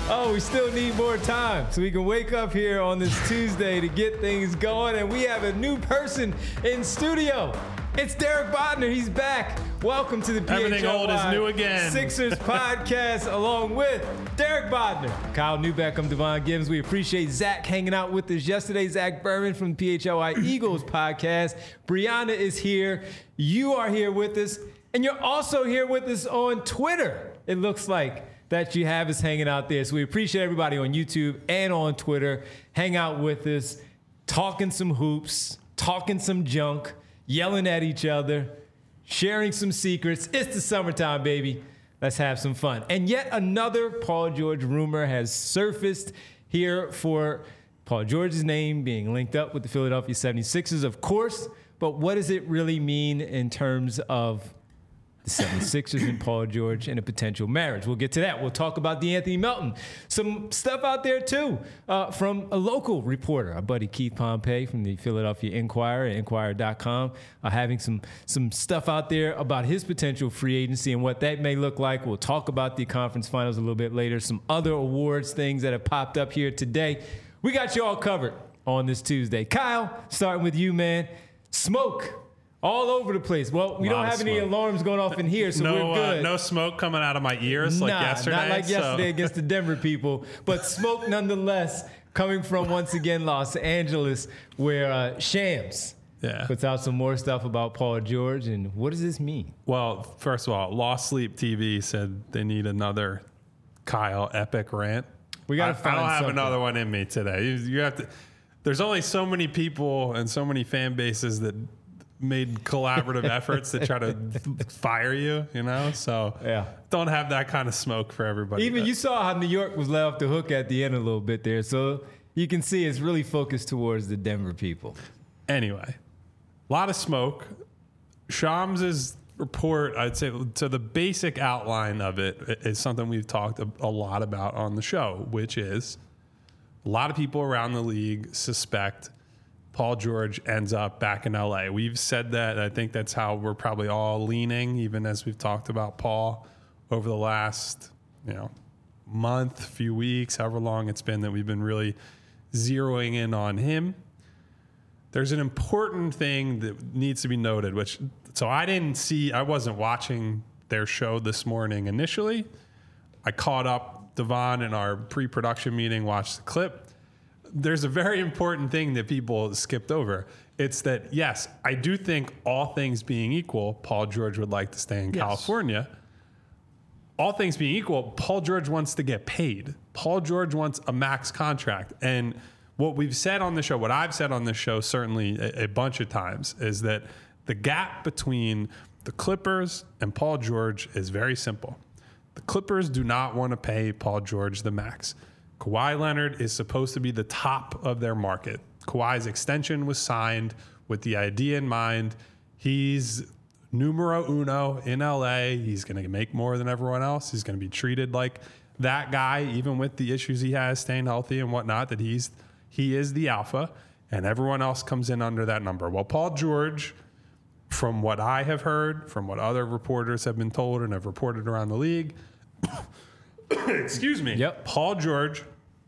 Oh, we still need more time so we can wake up here on this Tuesday to get things going. And we have a new person in studio. It's Derek Bodner. He's back. Welcome to the PHLY Everything old is new again. Sixers podcast along with Derek Bodner, Kyle Neubeck. I'm Devon Gibbs. We appreciate Zach hanging out with us yesterday. Zach Berman from the PHLY Eagles podcast. Brianna is here. You are here with us. And you're also here with us on Twitter. It looks like that you have us hanging out there. So we appreciate everybody on YouTube and on Twitter. Hang out with us, talking some hoops, talking some junk, yelling at each other, sharing some secrets. It's the summertime, baby. Let's have some fun. And yet another Paul George rumor has surfaced here for Paul George's name being linked up with the Philadelphia 76ers, of course. But what does it really mean in terms of the 76ers and Paul George and a potential marriage? We'll get to that. We'll talk about DeAnthony Melton. Some stuff out there, too, from a local reporter, our buddy Keith Pompey from the Philadelphia Inquirer at Inquirer.com, having some stuff out there about his potential free agency and what that may look like. We'll talk about the conference finals a little bit later, some other awards, things that have popped up here today. We got you all covered on this Tuesday. Kyle, starting with you, man. Smoke all over the place. Well, we don't have any alarms going off in here, so we're good. No smoke coming out of my ears like yesterday. Not like yesterday against the Denver people, but smoke nonetheless coming from, once again, Los Angeles, where Shams puts out some more stuff about Paul George. And what does this mean? Well, first of all, Lost Sleep TV said they need another Kyle epic rant. We got to find something. I don't have another one in me today. You have to. There's only so many people and so many fan bases that made collaborative efforts to try to fire you, you know? So don't have that kind of smoke for everybody. Even you saw how New York was let off the hook at the end a little bit there. So you can see it's really focused towards the Denver people. Anyway, a lot of smoke. Shams' report, I'd say, so the basic outline of it is something we've talked a lot about on the show, which is a lot of people around the league suspect Paul George ends up back in LA. We've said that. I think that's how we're probably all leaning, even as we've talked about Paul over the last, month, few weeks, however long it's been that we've been really zeroing in on him. There's an important thing that needs to be noted, I wasn't watching their show this morning initially. I caught up Devon in our pre-production meeting, watched the clip. There's a very important thing that people skipped over. It's that, yes, I do think all things being equal, Paul George would like to stay in California. All things being equal, Paul George wants to get paid. Paul George wants a max contract. And what we've said on the show, what I've said on this show certainly a bunch of times, is that the gap between the Clippers and Paul George is very simple. The Clippers do not want to pay Paul George the max. Kawhi Leonard is supposed to be the top of their market. Kawhi's extension was signed with the idea in mind. He's numero uno in LA. He's going to make more than everyone else. He's going to be treated like that guy, even with the issues he has, staying healthy and whatnot, that he is the alpha, and everyone else comes in under that number. Well, Paul George, from what I have heard, from what other reporters have been told and have reported around the league, excuse me. Yep. Paul George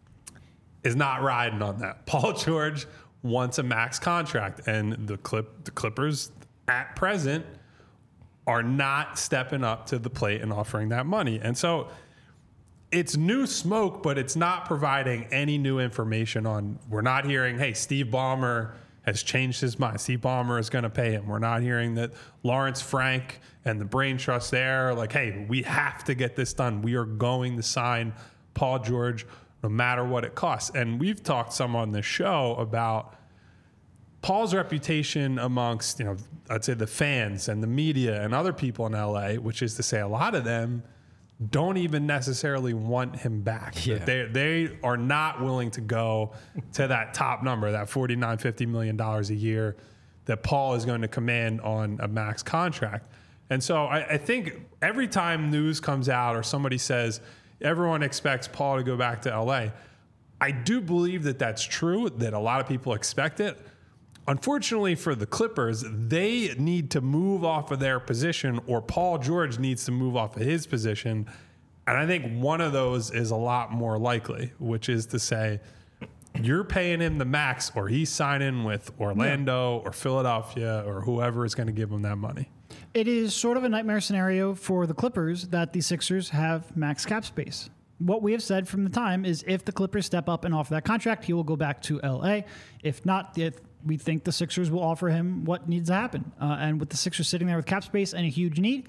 is not riding on that. Paul George wants a max contract, and the Clippers at present are not stepping up to the plate and offering that money. And so it's new smoke, but it's not providing any new information on. We're not hearing, hey, Steve Ballmer has changed his mind. Steve Ballmer is going to pay him. We're not hearing that Lawrence Frank and the brain trust there are like, hey, we have to get this done. We are going to sign Paul George no matter what it costs. And we've talked some on this show about Paul's reputation amongst, I'd say the fans and the media and other people in LA, which is to say a lot of them don't even necessarily want him back. Yeah. They are not willing to go to that top number, that $49, $50 million a year that Paul is going to command on a max contract. And so I think every time news comes out or somebody says everyone expects Paul to go back to LA, I do believe that that's true, that a lot of people expect it. Unfortunately for the Clippers, they need to move off of their position, or Paul George needs to move off of his position And I think one of those is a lot more likely, which is to say you're paying him the max or he's signing with Orlando or Philadelphia or whoever is going to give him that money. It is sort of a nightmare scenario for the Clippers that the Sixers have max cap space. What we have said from the time is if the Clippers step up and offer that contract, he will go back to LA. If not, we think the Sixers will offer him what needs to happen. And with the Sixers sitting there with cap space and a huge need,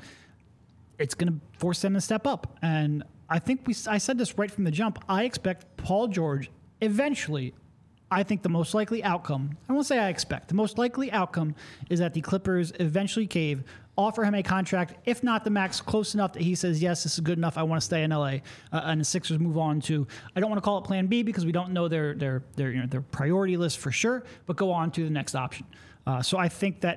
it's going to force them to step up. And I think I said this right from the jump. I expect Paul George eventually, I think the most likely outcome, I won't say I expect, the most likely outcome is that the Clippers eventually cave, offer him a contract, if not the max, close enough that he says, yes, this is good enough, I want to stay in LA. And the Sixers move on to, I don't want to call it plan B because we don't know their priority list for sure, but go on to the next option. So I think that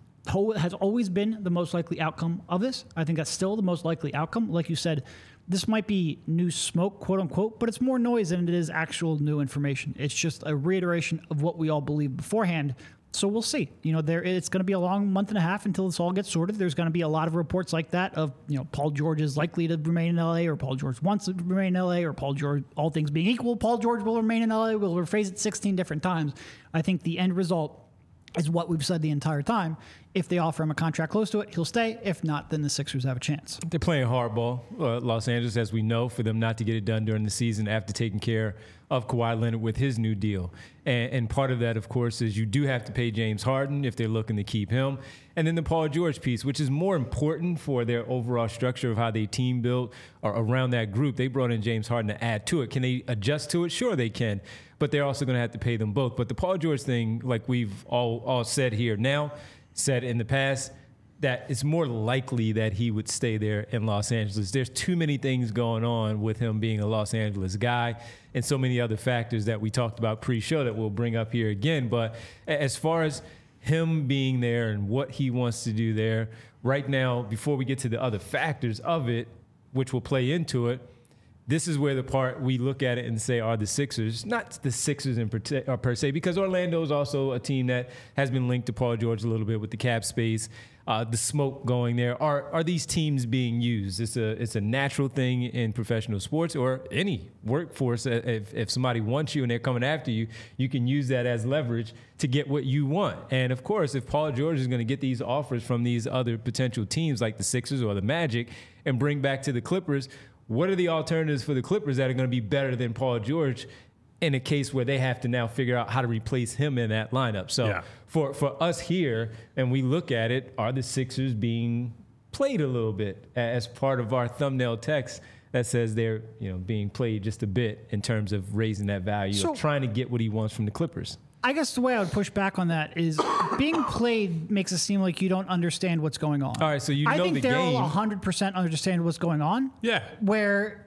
has always been the most likely outcome of this. I think that's still the most likely outcome. Like you said, this might be new smoke, quote unquote, but it's more noise than it is actual new information. It's just a reiteration of what we all believed beforehand. So we'll see. It's going to be a long month and a half until this all gets sorted. There's going to be a lot of reports like that of, Paul George is likely to remain in LA, or Paul George wants to remain in LA, or Paul George, all things being equal, Paul George will remain in LA. We'll rephrase it 16 different times. I think the end result is what we've said the entire time. If they offer him a contract close to it, he'll stay. If not, then the Sixers have a chance. They're playing hardball, Los Angeles, as we know, for them not to get it done during the season after taking care of Kawhi Leonard with his new deal. And part of that, of course, is you do have to pay James Harden if they're looking to keep him. And then the Paul George piece, which is more important for their overall structure of how they team built or around that group. They brought in James Harden to add to it. Can they adjust to it? Sure, they can. But they're also going to have to pay them both. But the Paul George thing, like we've all said here now, said in the past, that it's more likely that he would stay there in Los Angeles. There's too many things going on with him being a Los Angeles guy and so many other factors that we talked about pre-show that we'll bring up here again. But as far as him being there and what he wants to do there, right now, before we get to the other factors of it, which will play into it, this is where the part we look at it and say, are the Sixers, not the Sixers per se, because Orlando is also a team that has been linked to Paul George a little bit with the cap space, the smoke going there. Are these teams being used? It's a natural thing in professional sports or any workforce. If somebody wants you and they're coming after you, you can use that as leverage to get what you want. And of course, if Paul George is going to get these offers from these other potential teams like the Sixers or the Magic and bring back to the Clippers, what are the alternatives for the Clippers that are going to be better than Paul George in a case where they have to now figure out how to replace him in that lineup? So for us here, and we look at it, are the Sixers being played a little bit as part of our thumbnail text that says they're being played just a bit in terms of raising that value of trying to get what he wants from the Clippers? I guess the way I would push back on that is being played makes it seem like you don't understand what's going on. All right, so I think Daryl 100% understand what's going on. Yeah. Where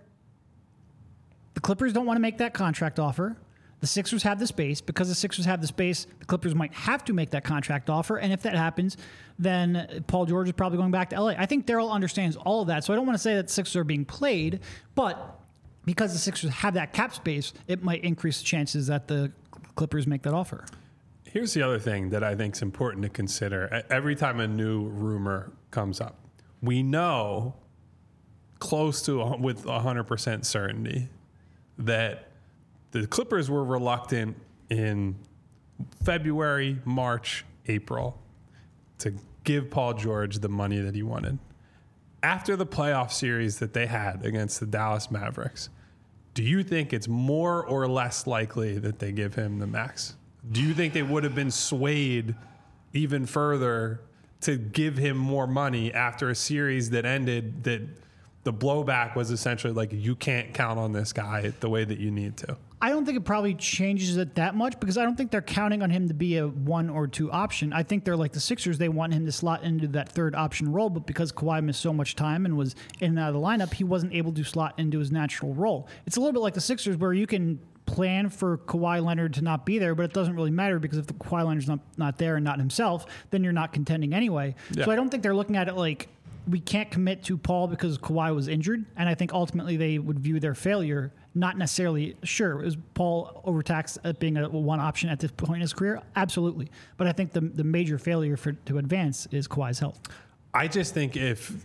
the Clippers don't want to make that contract offer. The Sixers have the space. Because the Sixers have the space, the Clippers might have to make that contract offer. And if that happens, then Paul George is probably going back to LA. I think Daryl understands all of that. So I don't want to say that the Sixers are being played, but because the Sixers have that cap space, it might increase the chances that the Clippers make that offer. Here's the other thing that I think is important to consider. Every time a new rumor comes up, we know close to with 100% certainty that the Clippers were reluctant in February, March, April to give Paul George the money that he wanted. After the playoff series that they had against the Dallas Mavericks, do you think it's more or less likely that they give him the max? Do you think they would have been swayed even further to give him more money after a series that ended that the blowback was essentially like, you can't count on this guy the way that you need to? I don't think it probably changes it that much because I don't think they're counting on him to be a 1 or 2 option. I think they're like the Sixers. They want him to slot into that third option role, but because Kawhi missed so much time and was in and out of the lineup, he wasn't able to slot into his natural role. It's a little bit like the Sixers where you can plan for Kawhi Leonard to not be there, but it doesn't really matter because if the Kawhi Leonard's not there and not himself, then you're not contending anyway. Yeah. So I don't think they're looking at it like we can't commit to Paul because Kawhi was injured, and I think ultimately they would view their failure not necessarily, sure, is Paul overtaxed at being a one option at this point in his career? Absolutely. But I think the major failure to advance is Kawhi's health. I just think if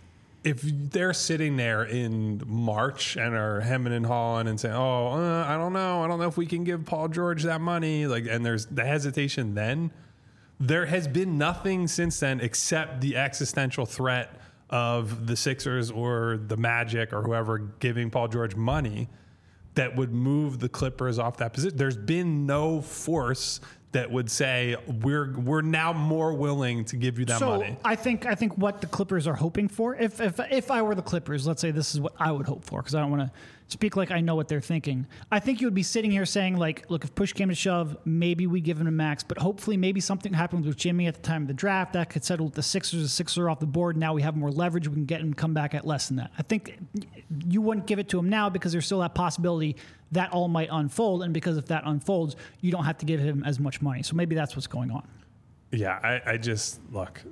if they're sitting there in March and are hemming and hawing and saying, I don't know if we can give Paul George that money, like, and there's the hesitation, then there has been nothing since then except the existential threat of the Sixers or the Magic or whoever giving Paul George money that would move the Clippers off that position. There's been no force that would say we're now more willing to give you that money. I think what the Clippers are hoping for, if I were the Clippers, let's say this is what I would hope for, because I don't want to speak like I know what they're thinking. I think you would be sitting here saying, like, look, if push came to shove, maybe we give him a max, but hopefully maybe something happened with Jimmy at the time of the draft that could settle with the Sixers. The Sixers are off the board. Now we have more leverage. We can get him come back at less than that. I think you wouldn't give it to him now because there's still that possibility that all might unfold, and because if that unfolds, you don't have to give him as much money. So maybe that's what's going on. Yeah, I just, look,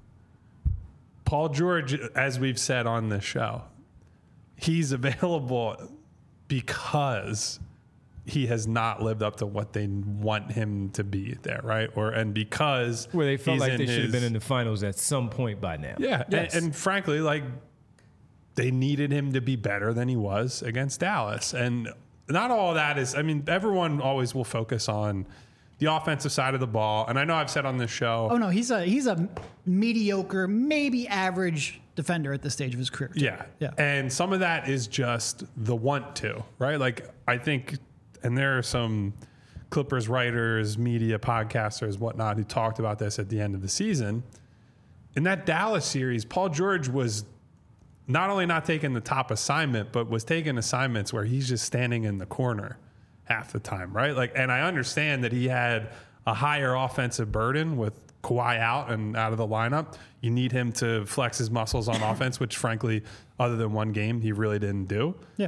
Paul George, as we've said on this show, he's available because he has not lived up to what they want him to be there, right? And because where they felt like they should have been in the finals at some point by now. Yeah, yes. and frankly, like, they needed him to be better than he was against Dallas. And not all of that is, I mean, everyone always will focus on the offensive side of the ball. And I know I've said on this show. Oh, no, he's a mediocre, maybe average defender at this stage of his career. Yeah. And some of that is just the want to, right? Like, I think, and there are some Clippers writers, media podcasters, whatnot, who talked about this at the end of the season. In that Dallas series, Paul George was not only not taking the top assignment, but was taking assignments where he's just standing in the corner half the time, right? Like, and I understand that he had a higher offensive burden with Kawhi out and out of the lineup. You need him to flex his muscles on offense, which frankly, other than one game, he really didn't do. Yeah.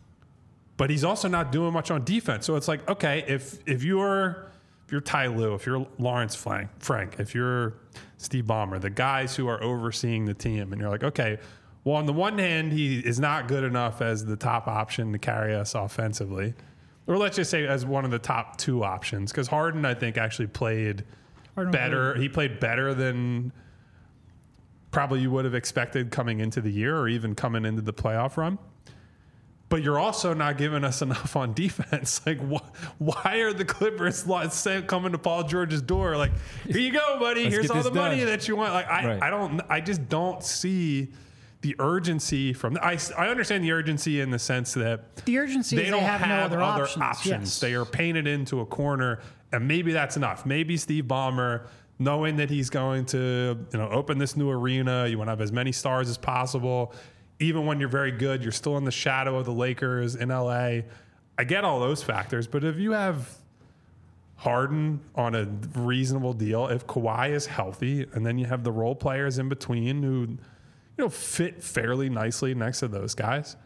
But he's also not doing much on defense. So it's like, okay, if you're Ty Lue, if you're Lawrence Frank, if you're Steve Ballmer, the guys who are overseeing the team, and you're like, okay, well, on the one hand, he is not good enough as the top option to carry us offensively. Or let's just say as one of the top two options. Because Harden, I think, actually played better. He played better than probably you would have expected coming into the year or even coming into the playoff run. But you're also not giving us enough on defense. Like, why are the Clippers coming to Paul George's door? Like, here you go, buddy. Here's all the money that you want. Like, I just don't see the urgency from I understand the urgency in the sense that the urgency they don't have no other options. Yes. They are painted into a corner, and maybe that's enough. Maybe Steve Ballmer, knowing that he's going to open this new arena, you want to have as many stars as possible. Even when you're very good, you're still in the shadow of the Lakers in LA. I get all those factors, but if you have Harden on a reasonable deal, if Kawhi is healthy, and then you have the role players in between who fit fairly nicely next to those guys.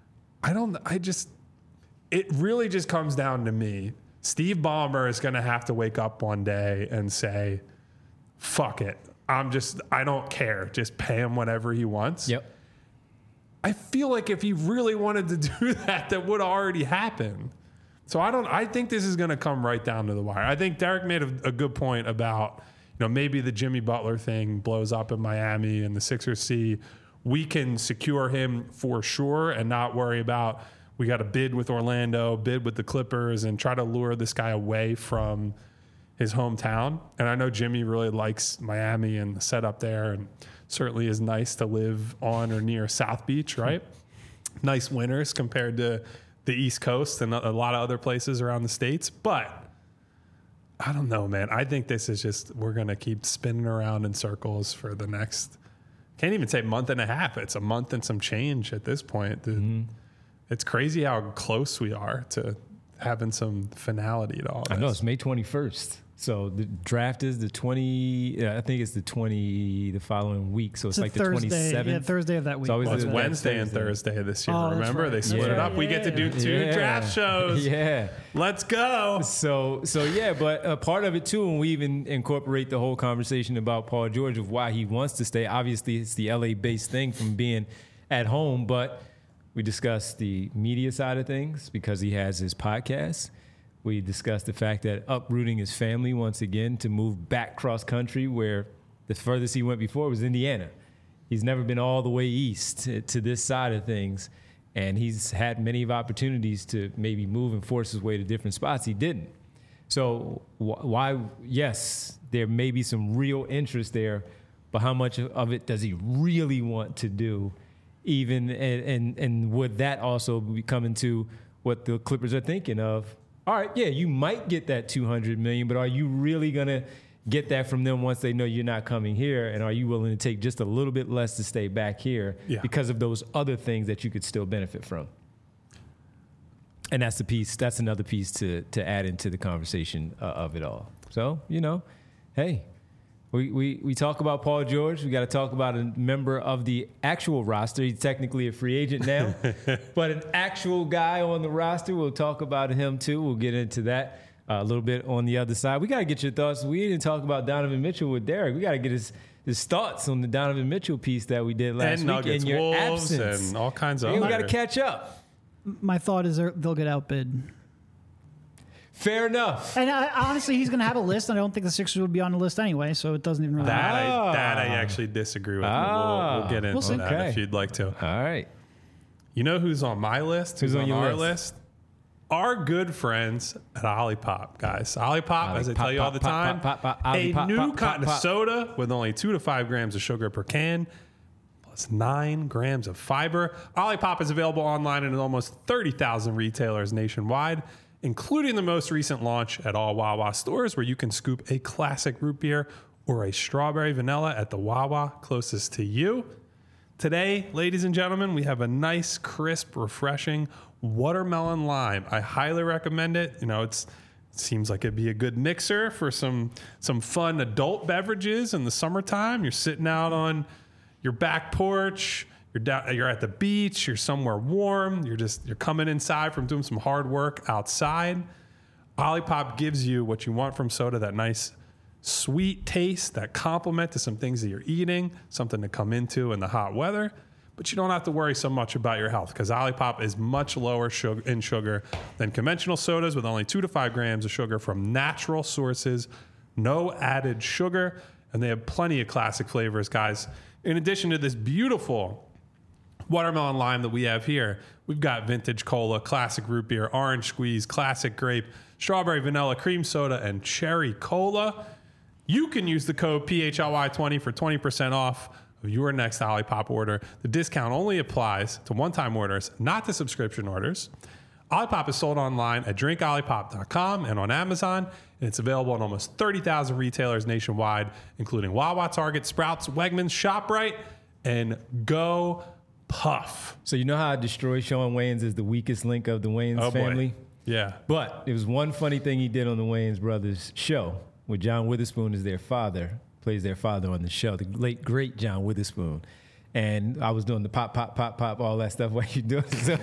It really just comes down to me. Steve Ballmer is going to have to wake up one day and say, fuck it. I don't care. Just pay him whatever he wants. Yep. I feel like if he really wanted to do that would already happen. So I think this is going to come right down to the wire. I think Derek made a good point about, maybe the Jimmy Butler thing blows up in Miami and the Sixers see we can secure him for sure and not worry about we got to bid with Orlando, bid with the Clippers, and try to lure this guy away from his hometown. And I know Jimmy really likes Miami and the setup there, and certainly is nice to live on or near South Beach, right? Nice winters compared to the East Coast and a lot of other places around the States. But I don't know, man. I think this is just, we're going to keep spinning around in circles for the next, can't even say month and a half. It's a month and some change at this point. Mm-hmm. It's crazy how close we are to having some finality to all this. I know, it's May 21st. So the draft is the 20, I think it's the following week. So it's like Thursday, the 27th. Yeah, Thursday of that week. It's Wednesday and Thursday this year. Remember? Right. They split it up. We get to do two draft shows. Yeah. Let's go. So yeah, but part of it too, and we even incorporate the whole conversation about Paul George of why he wants to stay. Obviously, it's the LA-based thing from being at home, but we discussed the media side of things because he has his podcast. We discussed the fact that uprooting his family once again to move back cross country, where the furthest he went before was Indiana. He's never been all the way east to this side of things. And he's had many of opportunities to maybe move and force his way to different spots. He didn't. So why, yes, there may be some real interest there, but how much of it does he really want to do? Even and would that also be coming to what the Clippers are thinking of? All right, yeah, you might get that $200 million, but are you really gonna get that from them once they know you're not coming here? And are you willing to take just a little bit less to stay back here because of those other things that you could still benefit from? And that's the piece. That's another piece to add into the conversation of it all. So, hey, we talk about Paul George. We got to talk about a member of the actual roster. He's technically a free agent now, but an actual guy on the roster. We'll talk about him too. We'll get into that a little bit on the other side. We got to get your thoughts. We didn't talk about Donovan Mitchell with Derek. We got to get his thoughts on the Donovan Mitchell piece that we did last week Nuggets, in your Wolves, absence. and all kinds of We other. got to catch up. My thought is they'll get outbid. Fair enough. And honestly, he's going to have a list, and I don't think the Sixers would be on the list anyway, so it doesn't even really matter. That I actually disagree with. We'll get into that if you'd like to. All right. You know who's on my list? Who's on your our list? Our good friends at Olipop, guys. Olipop, as I tell you all the time, a new kind of soda with only 2 to 5 grams of sugar per can, plus 9 grams of fiber. Olipop is available online in almost 30,000 retailers nationwide, including the most recent launch at all Wawa stores, where you can scoop a classic root beer or a strawberry vanilla at the Wawa closest to you. Today, ladies and gentlemen, we have a nice, crisp, refreshing watermelon lime. I highly recommend it. It seems like it'd be a good mixer for some fun adult beverages in the summertime. You're sitting out on your back porch. You're at the beach. You're somewhere warm. You're coming inside from doing some hard work outside. Olipop gives you what you want from soda, that nice sweet taste, that complement to some things that you're eating, something to come into in the hot weather. But you don't have to worry so much about your health because Olipop is much lower in sugar than conventional sodas, with only 2 to 5 grams of sugar from natural sources, no added sugar, and they have plenty of classic flavors, guys. In addition to this beautiful watermelon lime that we have here, we've got vintage cola, classic root beer, orange squeeze, classic grape, strawberry vanilla, cream soda, and cherry cola. You can use the code PHLY20 for 20% off of your next Olipop order. The discount only applies to one-time orders, not to subscription orders. Olipop is sold online at drinkolipop.com and on Amazon, and it's available in almost 30,000 retailers nationwide, including Wawa, Target, Sprouts, Wegmans, ShopRite, and Go Puff. So you know how I destroy Sean Wayans as the weakest link of the Wayans family? Boy. Yeah. But it was one funny thing he did on the Wayans brothers show, where John Witherspoon is their father, plays their father on the show, the late, great John Witherspoon. And I was doing the pop, pop, pop, pop, all that stuff while you doing it. So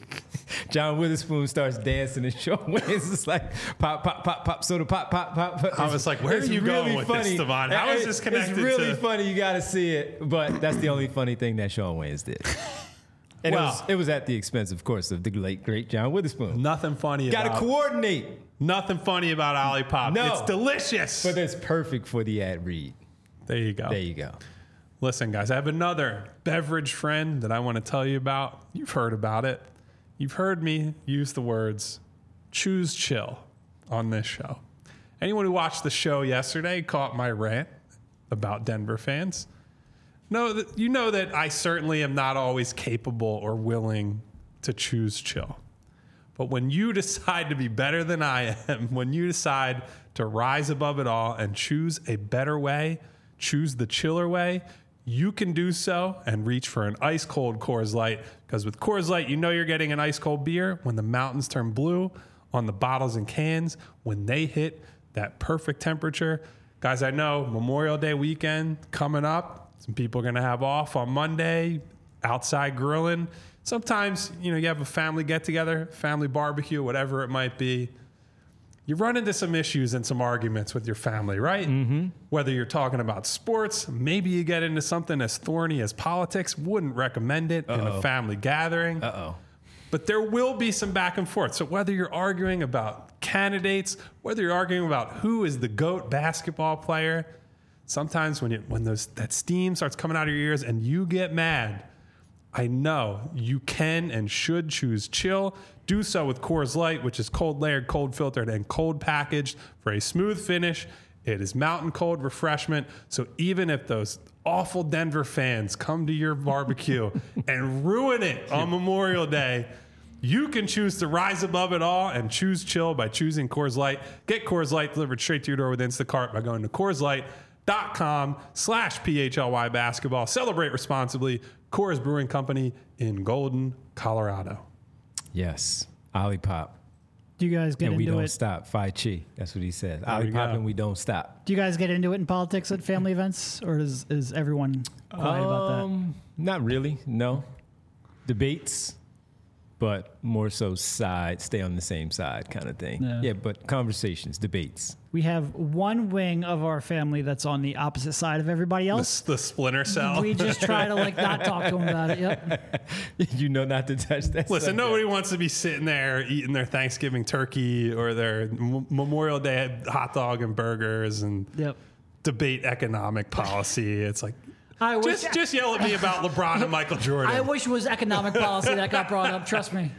John Witherspoon starts dancing and Sean Wayans is like pop, pop, pop, pop, soda, pop, pop, pop. I was like, where are you going with this, Devon? How is this connected to... It's really funny. You got to see it. But that's the only funny thing that Sean Wayans did. And it was at the expense, of course, of the late, great John Witherspoon. Nothing funny about... Got to coordinate. Nothing funny about Olipop. No. It's delicious. But it's perfect for the ad read. There you go. There you go. Listen, guys, I have another beverage friend that I want to tell you about. You've heard about it. You've heard me use the words choose chill on this show. Anyone who watched the show yesterday caught my rant about Denver fans. You know that I certainly am not always capable or willing to choose chill. But when you decide to be better than I am, when you decide to rise above it all and choose a better way, choose the chiller way, you can do so and reach for an ice cold Coors Light, because with Coors Light, you know you're getting an ice cold beer when the mountains turn blue on the bottles and cans, when they hit that perfect temperature. Guys, I know Memorial Day weekend coming up. Some people are going to have off on Monday, outside grilling. Sometimes, you have a family get together, family barbecue, whatever it might be. You run into some issues and some arguments with your family, right? Mm-hmm. Whether you're talking about sports, maybe you get into something as thorny as politics. Wouldn't recommend it in a family gathering. But there will be some back and forth. So whether you're arguing about candidates, whether you're arguing about who is the GOAT basketball player, sometimes when that steam starts coming out of your ears and you get mad, I know you can and should choose chill. Do so with Coors Light, which is cold layered, cold filtered, and cold packaged for a smooth finish. It is mountain cold refreshment. So even if those awful Denver fans come to your barbecue and ruin it on Memorial Day, you can choose to rise above it all and choose chill by choosing Coors Light. Get Coors Light delivered straight to your door with Instacart by going to CoorsLight.com/PHLY basketball. Celebrate responsibly. Coors Brewing Company in Golden, Colorado. Yes. Olipop. Do you guys get And we into don't it? stop. Phi Chi. That's what he says. There you Olipop go. and we don't stop. Do you guys get into it in politics at family events, or is everyone quiet about that? Not really. No. Debates, but more so stay on the same side kind of thing. Yeah. But conversations, debates. We have one wing of our family that's on the opposite side of everybody else. The splinter cell. We just try to not talk to them about it. Yep. You know not to touch that. Listen, subject. nobody wants to be sitting there eating their Thanksgiving turkey or their Memorial Day hot dog and burgers and Yep. debate economic policy. It's like, I wish, just yell at me about LeBron and Michael Jordan. I wish it was economic policy that got brought up. Trust me.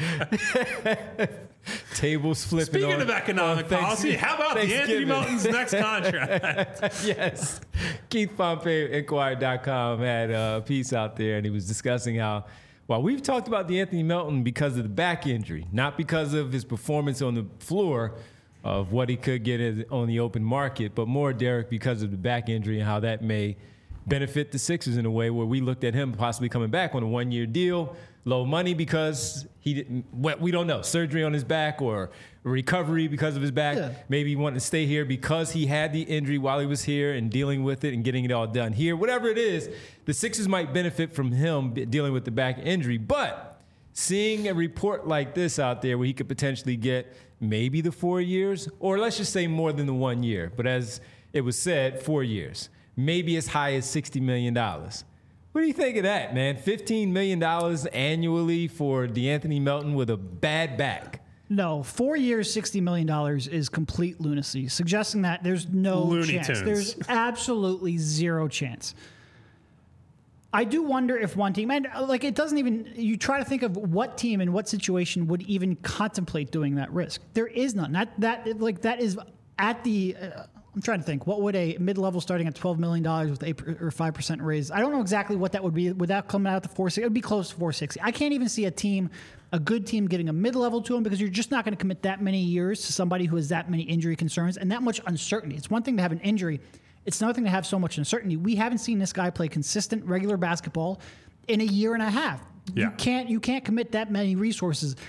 Tables flipping. Speaking of economic policy, how about the Anthony Melton's next contract? Yes. Keith Pompey, Inquirer.com, had a piece out there, and he was discussing how, while we've talked about the Anthony Melton because of the back injury, not because of his performance on the floor of what he could get on the open market, but more, Derek, because of the back injury and how that may benefit the Sixers in a way where we looked at him possibly coming back on a one-year deal, low money because he didn't, we don't know, surgery on his back or recovery because of his back. Yeah. Maybe he wanted to stay here because he had the injury while he was here and dealing with it and getting it all done here. Whatever it is, the Sixers might benefit from him dealing with the back injury. But seeing a report like this out there where he could potentially get maybe the 4 years, or let's just say more than the 1 year, but as it was said, 4 years, maybe as high as $60 million. What do you think of that, man? $15 million annually for DeAnthony Melton with a bad back. No, 4 years, $60 million is complete lunacy, suggesting that there's no Looney chance. Tunes. There's absolutely zero chance. I do wonder if one team, and it doesn't even, you try to think of what team in what situation would even contemplate doing that risk. There is none. That is at the, I'm trying to think, what would a mid-level starting at $12 million with 8 or 5% raise? I don't know exactly what that would be without coming out to 460. It would be close to 460. I can't even see a good team giving a mid-level to him because you're just not going to commit that many years to somebody who has that many injury concerns and that much uncertainty. It's one thing to have an injury. It's another thing to have so much uncertainty. We haven't seen this guy play consistent, regular basketball in a year and a half. Yeah. You can't commit that many resources.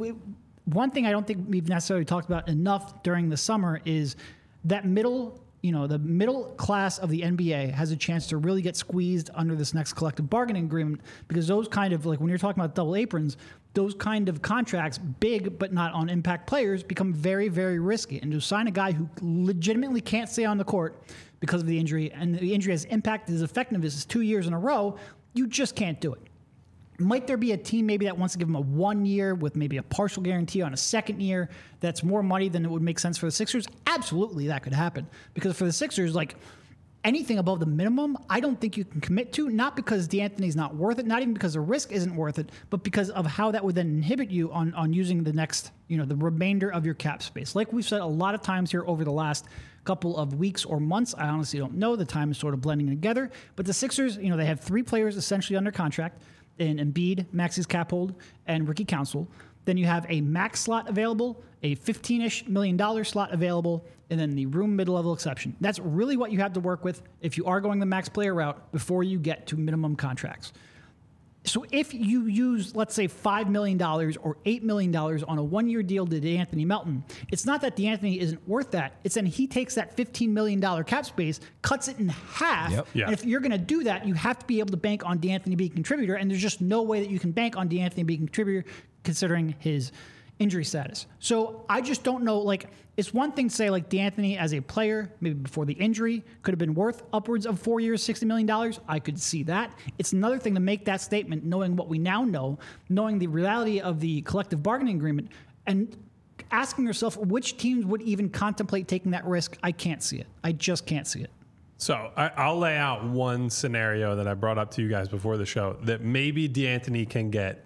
One thing I don't think we've necessarily talked about enough during the summer is that the middle class of the NBA has a chance to really get squeezed under this next collective bargaining agreement because those kind of, when you're talking about double aprons, those kind of contracts, big but not on impact players, become very, very risky. And to sign a guy who legitimately can't stay on the court because of the injury, and the injury has impacted his effectiveness 2 years in a row, you just can't do it. Might there be a team maybe that wants to give him a 1 year with maybe a partial guarantee on a second year that's more money than it would make sense for the Sixers? Absolutely, that could happen. Because for the Sixers, anything above the minimum, I don't think you can commit to, not because DeAnthony's not worth it, not even because the risk isn't worth it, but because of how that would then inhibit you on using the next, the remainder of your cap space. Like we've said a lot of times here over the last couple of weeks or months, I honestly don't know. The time is sort of blending together. But the Sixers, they have 3 players essentially under contract in Embiid, Maxey's cap hold, and Ricky Council. Then you have a max slot available, a $15-ish million slot available, and then the room mid-level exception. That's really what you have to work with if you are going the max player route before you get to minimum contracts. So if you use, let's say, $5 million or $8 million on a 1-year deal to DeAnthony Melton, it's not that DeAnthony isn't worth that. It's then he takes that $15 million cap space, cuts it in half. Yep. Yeah. And if you're going to do that, you have to be able to bank on DeAnthony being a contributor. And there's just no way that you can bank on DeAnthony being a contributor considering his injury status. So I just don't know, it's one thing to say DeAnthony as a player, maybe before the injury, could have been worth upwards of 4 years, $60 million. I could see that. It's another thing to make that statement, knowing what we now know, knowing the reality of the collective bargaining agreement, and asking yourself which teams would even contemplate taking that risk. I can't see it. I just can't see it. So I'll lay out one scenario that I brought up to you guys before the show that maybe D'Antoni can get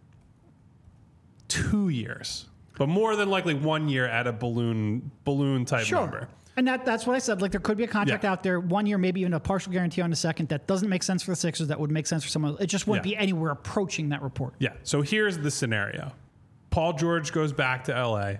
2 years, but more than likely 1 year at a balloon type number. And that's what I said. Like, there could be a contract out there, 1 year, maybe even a partial guarantee on the second. That doesn't make sense for the Sixers. That would make sense for someone else. It just wouldn't be anywhere approaching that report. Yeah. So here's the scenario. Paul George goes back to LA.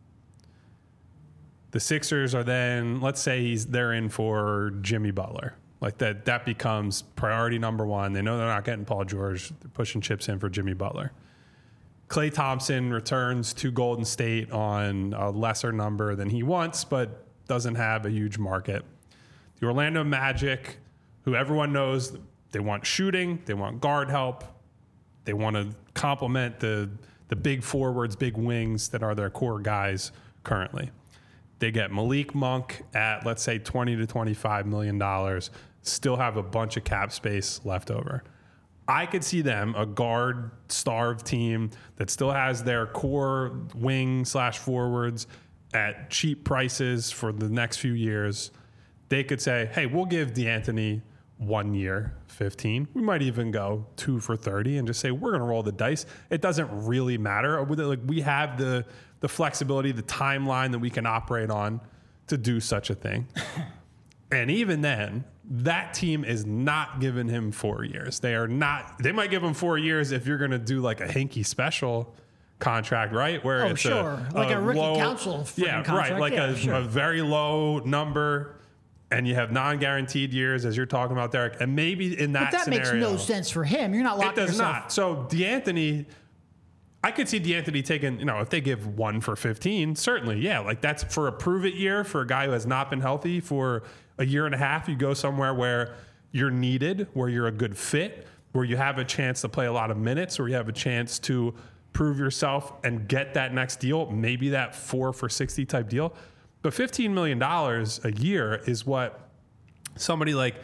The Sixers are then, let's say they're in for Jimmy Butler. Like that becomes priority number one. They know they're not getting Paul George. They're pushing chips in for Jimmy Butler. Klay Thompson returns to Golden State on a lesser number than he wants, but doesn't have a huge market. The Orlando Magic, who everyone knows, they want shooting, they want guard help, they want to complement the big forwards, big wings that are their core guys currently. They get Malik Monk at, let's say, $20 to $25 million, still have a bunch of cap space left over. I could see them, a guard-starved team that still has their core wing/forwards at cheap prices for the next few years. They could say, hey, we'll give D'Antoni 1 year, 15. We might even go 2 for 30 and just say, we're going to roll the dice. It doesn't really matter. Like, we have the flexibility, the timeline that we can operate on to do such a thing. And even then, that team is not giving him 4 years. They might give him 4 years if you're going to do like a Hinkie special contract, right? Where it's like a rookie low, council contract. Right, like a very low number, and you have non-guaranteed years, as you're talking about, Derek. And maybe in that scenario, makes no sense for him. You're not locking yourself. It does not. So D'Antoni, I could see D'Antoni taking, if they give 1 for 15, certainly, yeah. Like, that's for a prove-it year for a guy who has not been healthy for a year and a half. You go somewhere where you're needed, where you're a good fit, where you have a chance to play a lot of minutes, where you have a chance to prove yourself and get that next deal, maybe that 4 for 60 type deal. But $15 million a year is what somebody like,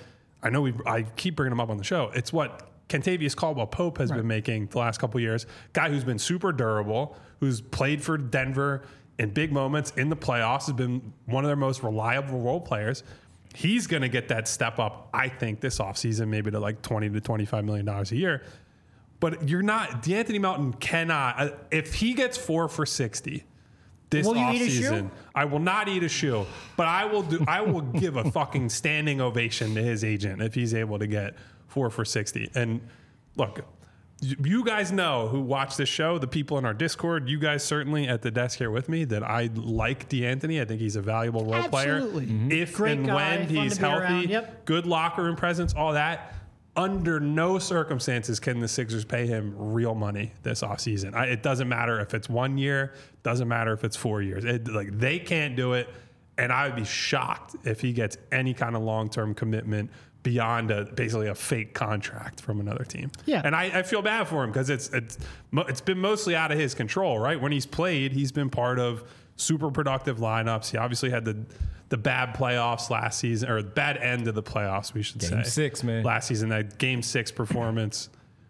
I keep bringing him up on the show. It's what Kentavious Caldwell-Pope has been making the last couple of years. Guy who's been super durable, who's played for Denver in big moments in the playoffs, has been one of their most reliable role players. He's going to get that step up, I think, this offseason, maybe to like $20 to $25 million a year. But D'Anthony Melton cannot, if he gets 4 for 60 this offseason, I will not eat a shoe, but I will give a fucking standing ovation to his agent if he's able to get 4 for 60. And look, you guys know who watch this show, the people in our Discord, you guys certainly at the desk here with me, that I like D'Antoni. I think he's a valuable role player. If Great and guy, when he's healthy, good locker room presence, all that. Under no circumstances can the Sixers pay him real money this offseason. It doesn't matter if it's 1 year, doesn't matter if it's 4 years. They can't do it, and I would be shocked if he gets any kind of long-term commitment beyond basically a fake contract from another team. Yeah, and I feel bad for him because it's been mostly out of his control. Right, when he's played, he's been part of super productive lineups. He obviously had the bad playoffs last season, or bad end of the playoffs, we should say. Game 6, man. Last season, that Game 6 performance.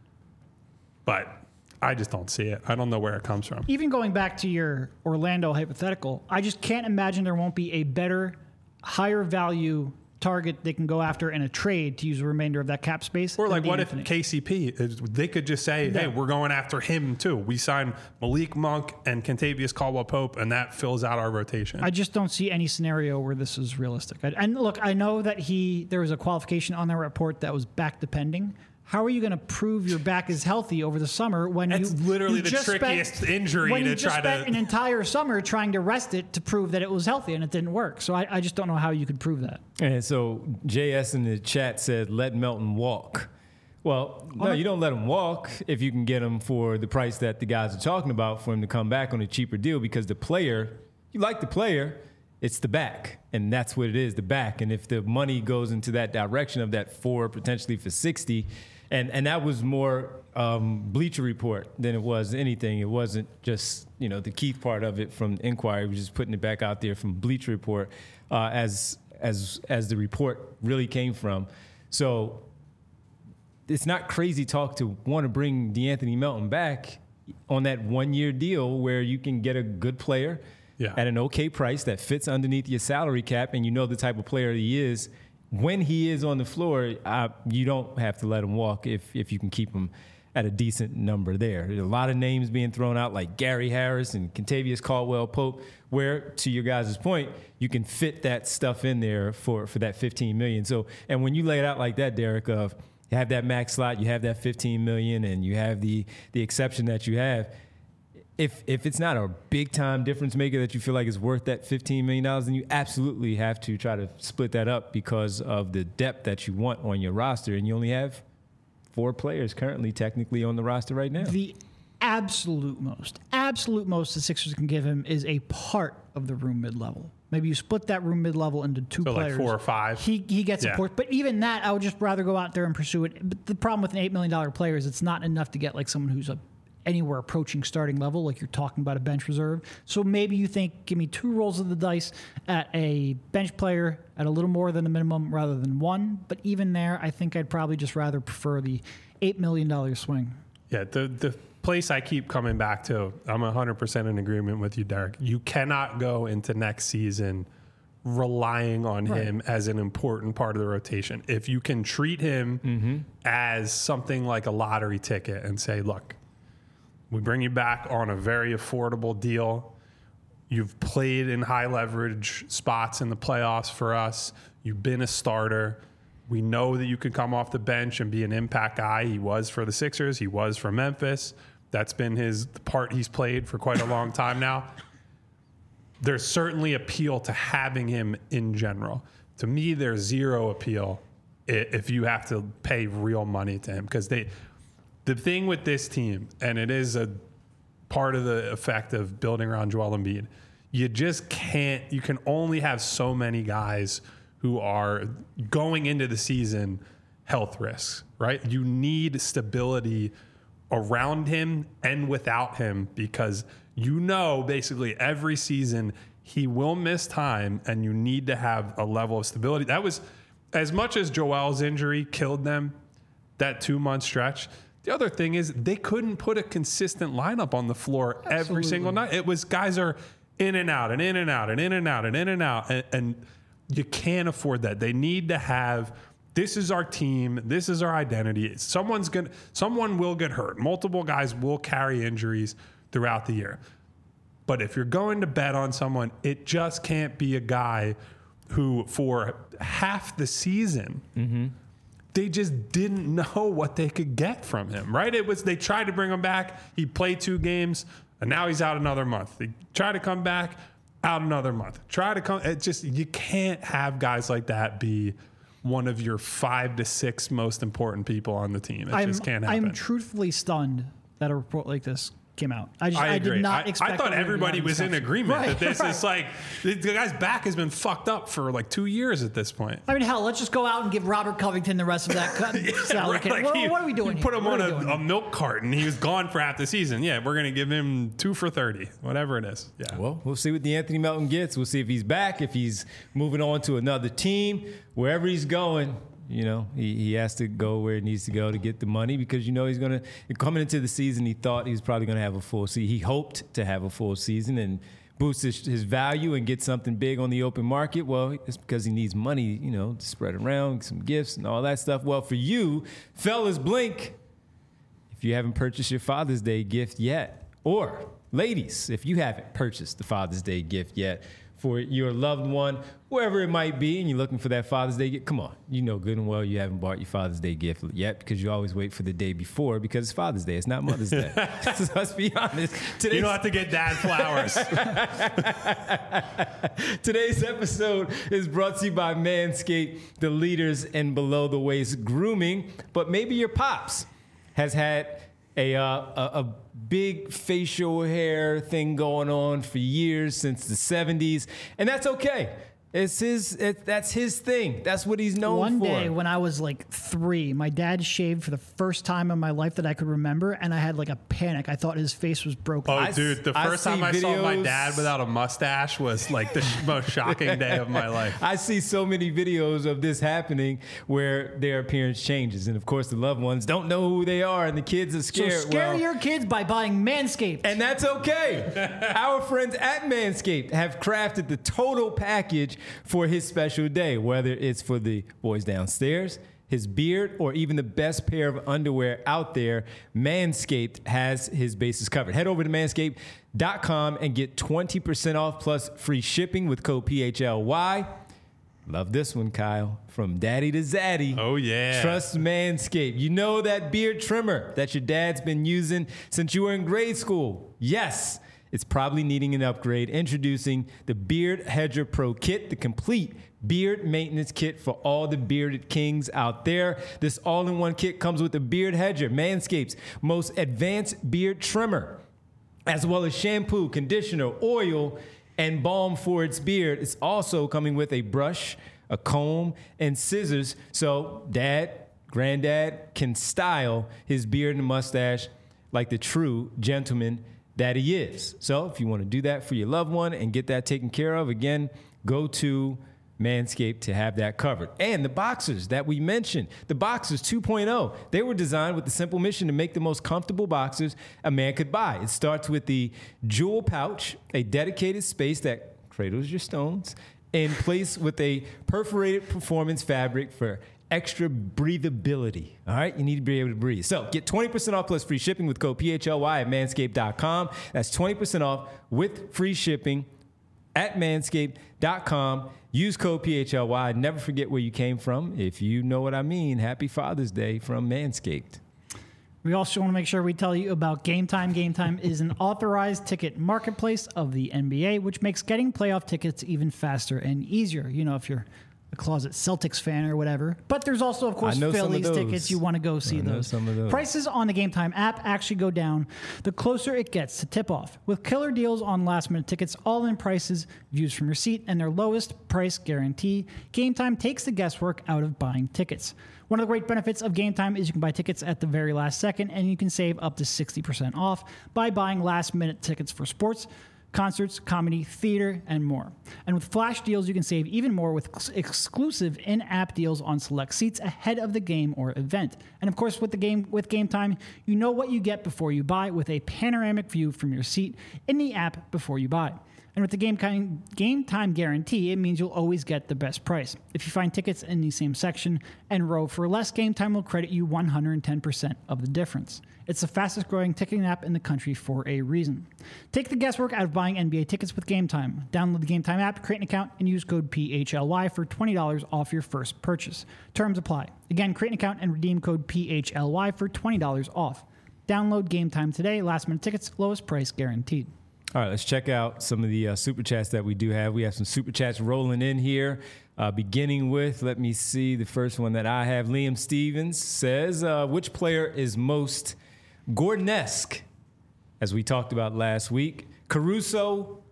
But I just don't see it. I don't know where it comes from. Even going back to your Orlando hypothetical, I just can't imagine there won't be a better, higher value target they can go after in a trade to use the remainder of that cap space. Or like, what if KCP, they could just say, hey, we're going after him too. We signed Malik Monk and Kentavious Caldwell-Pope, and that fills out our rotation. I just don't see any scenario where this is realistic. And look, I know that there was a qualification on their report that was back depending. How are you going to prove your back is healthy over the summer when it's literally the trickiest injury when to you just try spent to an entire summer trying to rest it to prove that it was healthy, and it didn't work. So I just don't know how you could prove that. And so JS in the chat said, "Let Melton walk." Well, no, you don't let him walk if you can get him for the price that the guys are talking about for him to come back on a cheaper deal, because the player, you like the player, it's the back, and that's what it is, the back. And if the money goes into that direction of that 4 potentially for 60. And that was more Bleacher Report than it was anything. It wasn't just, the Keith part of it from Inquiry. We're just putting it back out there from Bleacher Report as the report really came from. So it's not crazy talk to want to bring D'Anthony Melton back on that 1 year deal where you can get a good player at an okay price that fits underneath your salary cap, and the type of player he is, when he is on the floor, you don't have to let him walk if you can keep him at a decent number there. There's a lot of names being thrown out like Gary Harris and Kentavious Caldwell-Pope, where, to your guys' point, you can fit that stuff in there for that $15 million. So, and when you lay it out like that, Derek, of you have that max slot, you have that $15 million, and you have the exception that you have, if it's not a big-time difference maker that you feel like is worth that $15 million, then you absolutely have to try to split that up because of the depth that you want on your roster, and you only have 4 players currently technically on the roster right now. The absolute most the Sixers can give him is a part of the room mid-level. Maybe you split that room mid-level into 2 players. Like 4 or 5. He gets a port. But even that, I would just rather go out there and pursue it. But the problem with an $8 million player is it's not enough to get like someone who's anywhere approaching starting level, like you're talking about a bench reserve. So maybe you think, give me 2 rolls of the dice at a bench player at a little more than the minimum rather than 1. But even there, I think I'd probably just rather prefer the $8 million swing. Yeah, the place I keep coming back to, I'm 100% in agreement with you, Derek. You cannot go into next season relying on him as an important part of the rotation. If you can treat him as something like a lottery ticket and say, look, we bring you back on a very affordable deal. You've played in high leverage spots in the playoffs for us. You've been a starter. We know that you can come off the bench and be an impact guy. He was for the Sixers. He was for Memphis. That's been the part he's played for quite a long time now. There's certainly appeal to having him in general. To me, there's zero appeal if you have to pay real money to him, because the thing with this team, and it is a part of the effect of building around Joel Embiid, you just can't, you can only have so many guys who are going into the season health risks, right? You need stability around him and without him, because basically every season he will miss time, and you need to have a level of stability. That was, as much as Joel's injury killed them, that 2-month stretch, the other thing is they couldn't put a consistent lineup on the floor every single night. It was guys are in and out and in and out and in and out and in and out. And you can't afford that. They need to have, this is our team. This is our identity. Someone will get hurt. Multiple guys will carry injuries throughout the year. But if you're going to bet on someone, it just can't be a guy who for half the season, they just didn't know what they could get from him, right? They tried to bring him back. He played 2 games, and now he's out another month. They tried to come back, out another month. You can't have guys like that be one of your 5 to 6 most important people on the team. It just can't happen. I'm truthfully stunned that a report like this came out. I did not expect. I thought everybody was in agreement that this is like, the guy's back has been fucked up for like 2 years at this point. I mean, hell, let's just go out and give Robert Covington the rest of that salary cap. Like what are we doing here? Put him on a milk carton. He was gone for half the season. Yeah, we're going to give him 2 for $30, whatever it is. Yeah. Well, we'll see what DeAnthony Melton gets. We'll see if he's back, if he's moving on to another team, wherever he's going. He has to go where he needs to go to get the money, because he's going to, coming into the season, he thought he was probably going to have a full season. He hoped to have a full season and boost his value and get something big on the open market. Well, it's because he needs money, to spread around, some gifts and all that stuff. Well, for you, fellas, blink if you haven't purchased your Father's Day gift yet. Or ladies, if you haven't purchased the Father's Day gift yet for your loved one, wherever it might be, and you're looking for that Father's Day gift, come on. You know good and well you haven't bought your Father's Day gift yet, because you always wait for the day before, because it's Father's Day. It's not Mother's Day. So let's be honest. You don't have to get dad flowers. Today's episode is brought to you by Manscaped, the leaders in below-the-waist grooming. But maybe your pops has had a big facial hair thing going on for years, since the 70s, and that's okay. That's his thing. That's what he's known for. One day when I was like 3, my dad shaved for the first time in my life that I could remember, and I had like a panic. I thought his face was broken. Oh, dude, the first time I saw my dad without a mustache was like the most shocking day of my life. I see so many videos of this happening where their appearance changes, and of course the loved ones don't know who they are, and the kids are scared. So scare your kids by buying Manscaped. And that's okay. Our friends at Manscaped have crafted the total package for his special day, whether it's for the boys downstairs, his beard, or even the best pair of underwear out there. Manscaped has his bases covered. Head over to manscaped.com and get 20% off plus free shipping with code PHLY. Love this one, Kyle. From daddy to zaddy. Oh, yeah. Trust Manscaped. You know that beard trimmer that your dad's been using since you were in grade school? Yes. It's probably needing an upgrade. Introducing the Beard Hedger Pro Kit, the complete beard maintenance kit for all the bearded kings out there. This all-in-one kit comes with the Beard Hedger, Manscaped's most advanced beard trimmer, as well as shampoo, conditioner, oil, and balm for its beard. It's also coming with a brush, a comb, and scissors, so dad, granddad can style his beard and mustache like the true gentleman that he is. So if you want to do that for your loved one and get that taken care of, again, go to Manscaped to have that covered. And the boxers that we mentioned, the Boxers 2.0, they were designed with the simple mission to make the most comfortable boxers a man could buy. It starts with the jewel pouch, a dedicated space that cradles your stones, in place with a perforated performance fabric for extra breathability. All right, you need to be able to breathe. So get 20% off plus free shipping with code PHLY at manscaped.com. That's 20% off with free shipping at manscaped.com. Use code PHLY. Never forget where you came from. If you know what I mean, happy Father's Day from Manscaped. We also want to make sure we tell you about Game Time. Game Time is an authorized ticket marketplace of the NBA, which makes getting playoff tickets even faster and easier. You know, if you're a closet Celtics fan or whatever. But there's also, of course, Phillies tickets. You want to go see those. Some of those. Prices on the Game Time app actually go down the closer it gets to tip-off. With killer deals on last-minute tickets, all-in prices, views from your seat, and their lowest price guarantee, Game Time takes the guesswork out of buying tickets. One of the great benefits of Game Time is you can buy tickets at the very last second, and you can save up to 60% off by buying last-minute tickets for sports, concerts, comedy, theater, and more. And with flash deals, you can save even more with exclusive in-app deals on select seats ahead of the game or event. And of course, with Game Time, you know what you get before you buy with a panoramic view from your seat in the app before you buy. And with the Game Time guarantee, it means you'll always get the best price. If you find tickets in the same section and row for less, Game Time will credit you 110% of the difference. It's the fastest growing ticketing app in the country for a reason. Take the guesswork out of buying NBA tickets with Game Time. Download the Game Time app, create an account, and use code PHLY for $20 off your first purchase. Terms apply. Again, create an account and redeem code PHLY for $20 off. Download Game Time today. Last minute tickets, lowest price guaranteed. All right, let's check out some of the super chats that we do have. We have some super chats rolling in here, beginning with, let me see, the first one that I have. Liam Stevens says, which player is most Gordon-esque, as we talked about last week? Caruso,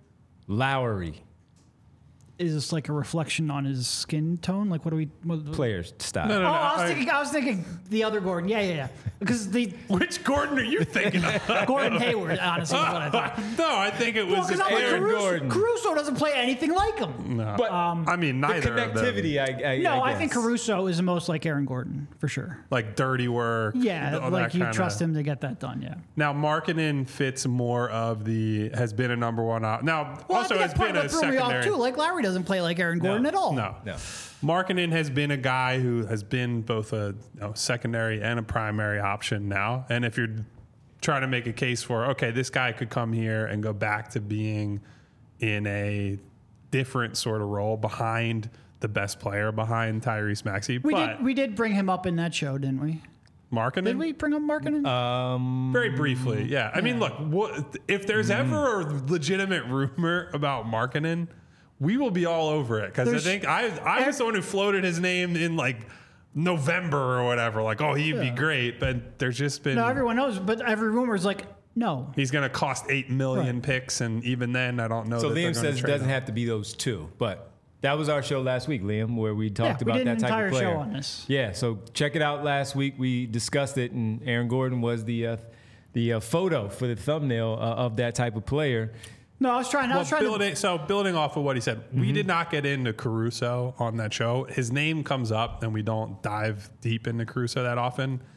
Lowry. Is this like a reflection on his skin tone? Like, what do we... Players, style. No, I was thinking the other Gordon. Yeah. Because which Gordon are you thinking of? Gordon Hayward, honestly, is what I thought. No, I think it was Aaron Gordon. Caruso doesn't play anything like him. No, But I mean, neither the of them. connectivity, I think Caruso is the most like Aaron Gordon, for sure. Like dirty work. Yeah, all like that you kinda. trust him to get that done, yeah. Now, Markkanen fits more of the, has been a number one. Now, also I has think been that's a part of what threw me off, secondary. too. Like, Lowry doesn't play like Aaron Gordon at all. No. No. Markkanen has been a guy who has been both a secondary and a primary option now. And if you're trying to make a case for, okay, this guy could come here and go back to being in a different sort of role behind the best player, behind Tyrese Maxey. We did bring him up in that show, didn't we? Markkanen? Did we bring up Markkanen? Very briefly, yeah. I mean, look, if there's ever a legitimate rumor about Markkanen, we will be all over it. Because I think I was the one who floated his name in like November or whatever. Like, oh, he'd be great. But there's just been... No, everyone knows, but every rumor is like, no. He's going to cost $8 million picks. And even then, I don't know. So that Liam they're gonna says it trade doesn't him. have to be those two. But that was our show last week, Liam, where we talked about we did that an type entire of player. show on this. Yeah, so check it out last week. We discussed it, and Aaron Gordon was the photo for the thumbnail of that type of player. No, I was trying to... Building off of what he said, we did not get into Caruso on that show. His name comes up, and we don't dive deep into Caruso that often.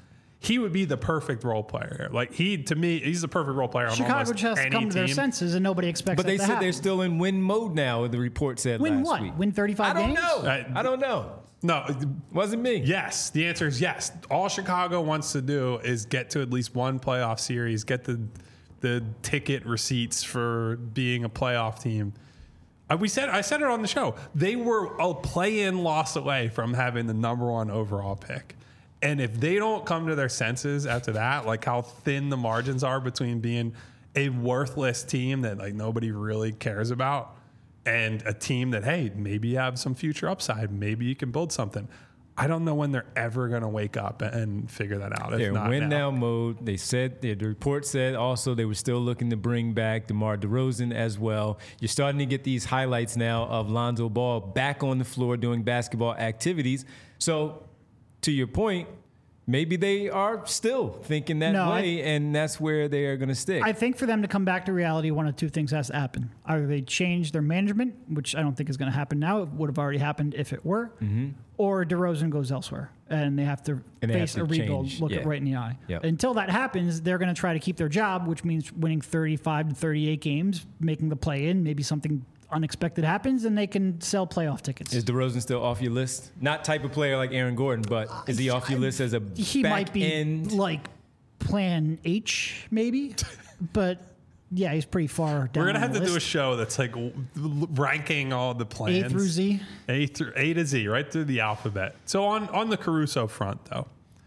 he would be the perfect role player. Like to me, he's the perfect role player on Chicago almost just has to any come to their team. senses, and nobody expects. But they that to said happen. they're still in win mode now. The report said Win last what? week. Win 35 I don't games? know. I don't know. No, Wasn't me. yes. The answer is yes. All Chicago wants to do is get to at least one playoff series, get the ticket receipts for being a playoff team. I said it on the show. They were a play-in loss away from having the number 1 overall pick. And if they don't come to their senses after that, like how thin the margins are between being a worthless team that like nobody really cares about and a team that, hey, maybe you have some future upside, maybe you can build something. I don't know when they're ever going to wake up and figure that out. They're If not win now. now mode. They said the report said also they were still looking to bring back DeMar DeRozan as well. You're starting to get these highlights now of Lonzo Ball back on the floor doing basketball activities. So, to your point, maybe they are still thinking that way, and that's where they are going to stick. I think for them to come back to reality, one of two things has to happen. Either they change their management, which I don't think is going to happen now. It would have already happened if it were. Or DeRozan goes elsewhere, and they have to face a rebuild, look it right in the eye. Yep. Until that happens, they're going to try to keep their job, which means winning 35 to 38 games, making the play-in, maybe something unexpected happens, and they can sell playoff tickets. Is DeRozan still off your list? Not type of player like Aaron Gordon, but is he off your list as a He back might be end? like plan H, maybe, but yeah, he's pretty far down. We're going to have the to do a list. show that's like ranking all the plans. A through Z. A to Z, right through the alphabet. So on the Caruso front, though,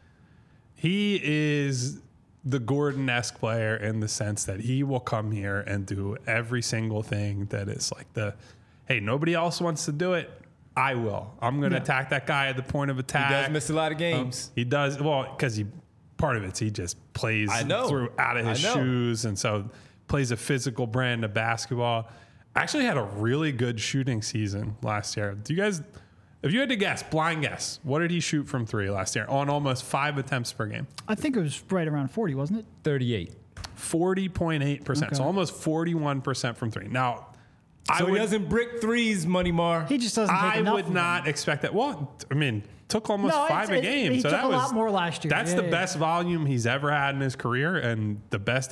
he is the Gordon-esque player in the sense that he will come here and do every single thing that is like hey, nobody else wants to do it. I will. I'm going to attack that guy at the point of attack. He does miss a lot of games. He does. Well, because part of it's he just plays through out of his shoes. And so plays a physical brand of basketball. Actually had a really good shooting season last year. Do you guys, if you had to guess, blind guess, what did he shoot from three last year on almost 5 attempts per game? I think it was right around 40, wasn't it? 38. 40.8%. Okay. So almost 41% from three. Now, So he doesn't brick threes, Money Mar. He just doesn't take I enough would of not them. expect that. Well, I mean, took almost No, 5 a game. He so took that a was lot more last year. That's Yeah, the yeah. best volume he's ever had in his career and the best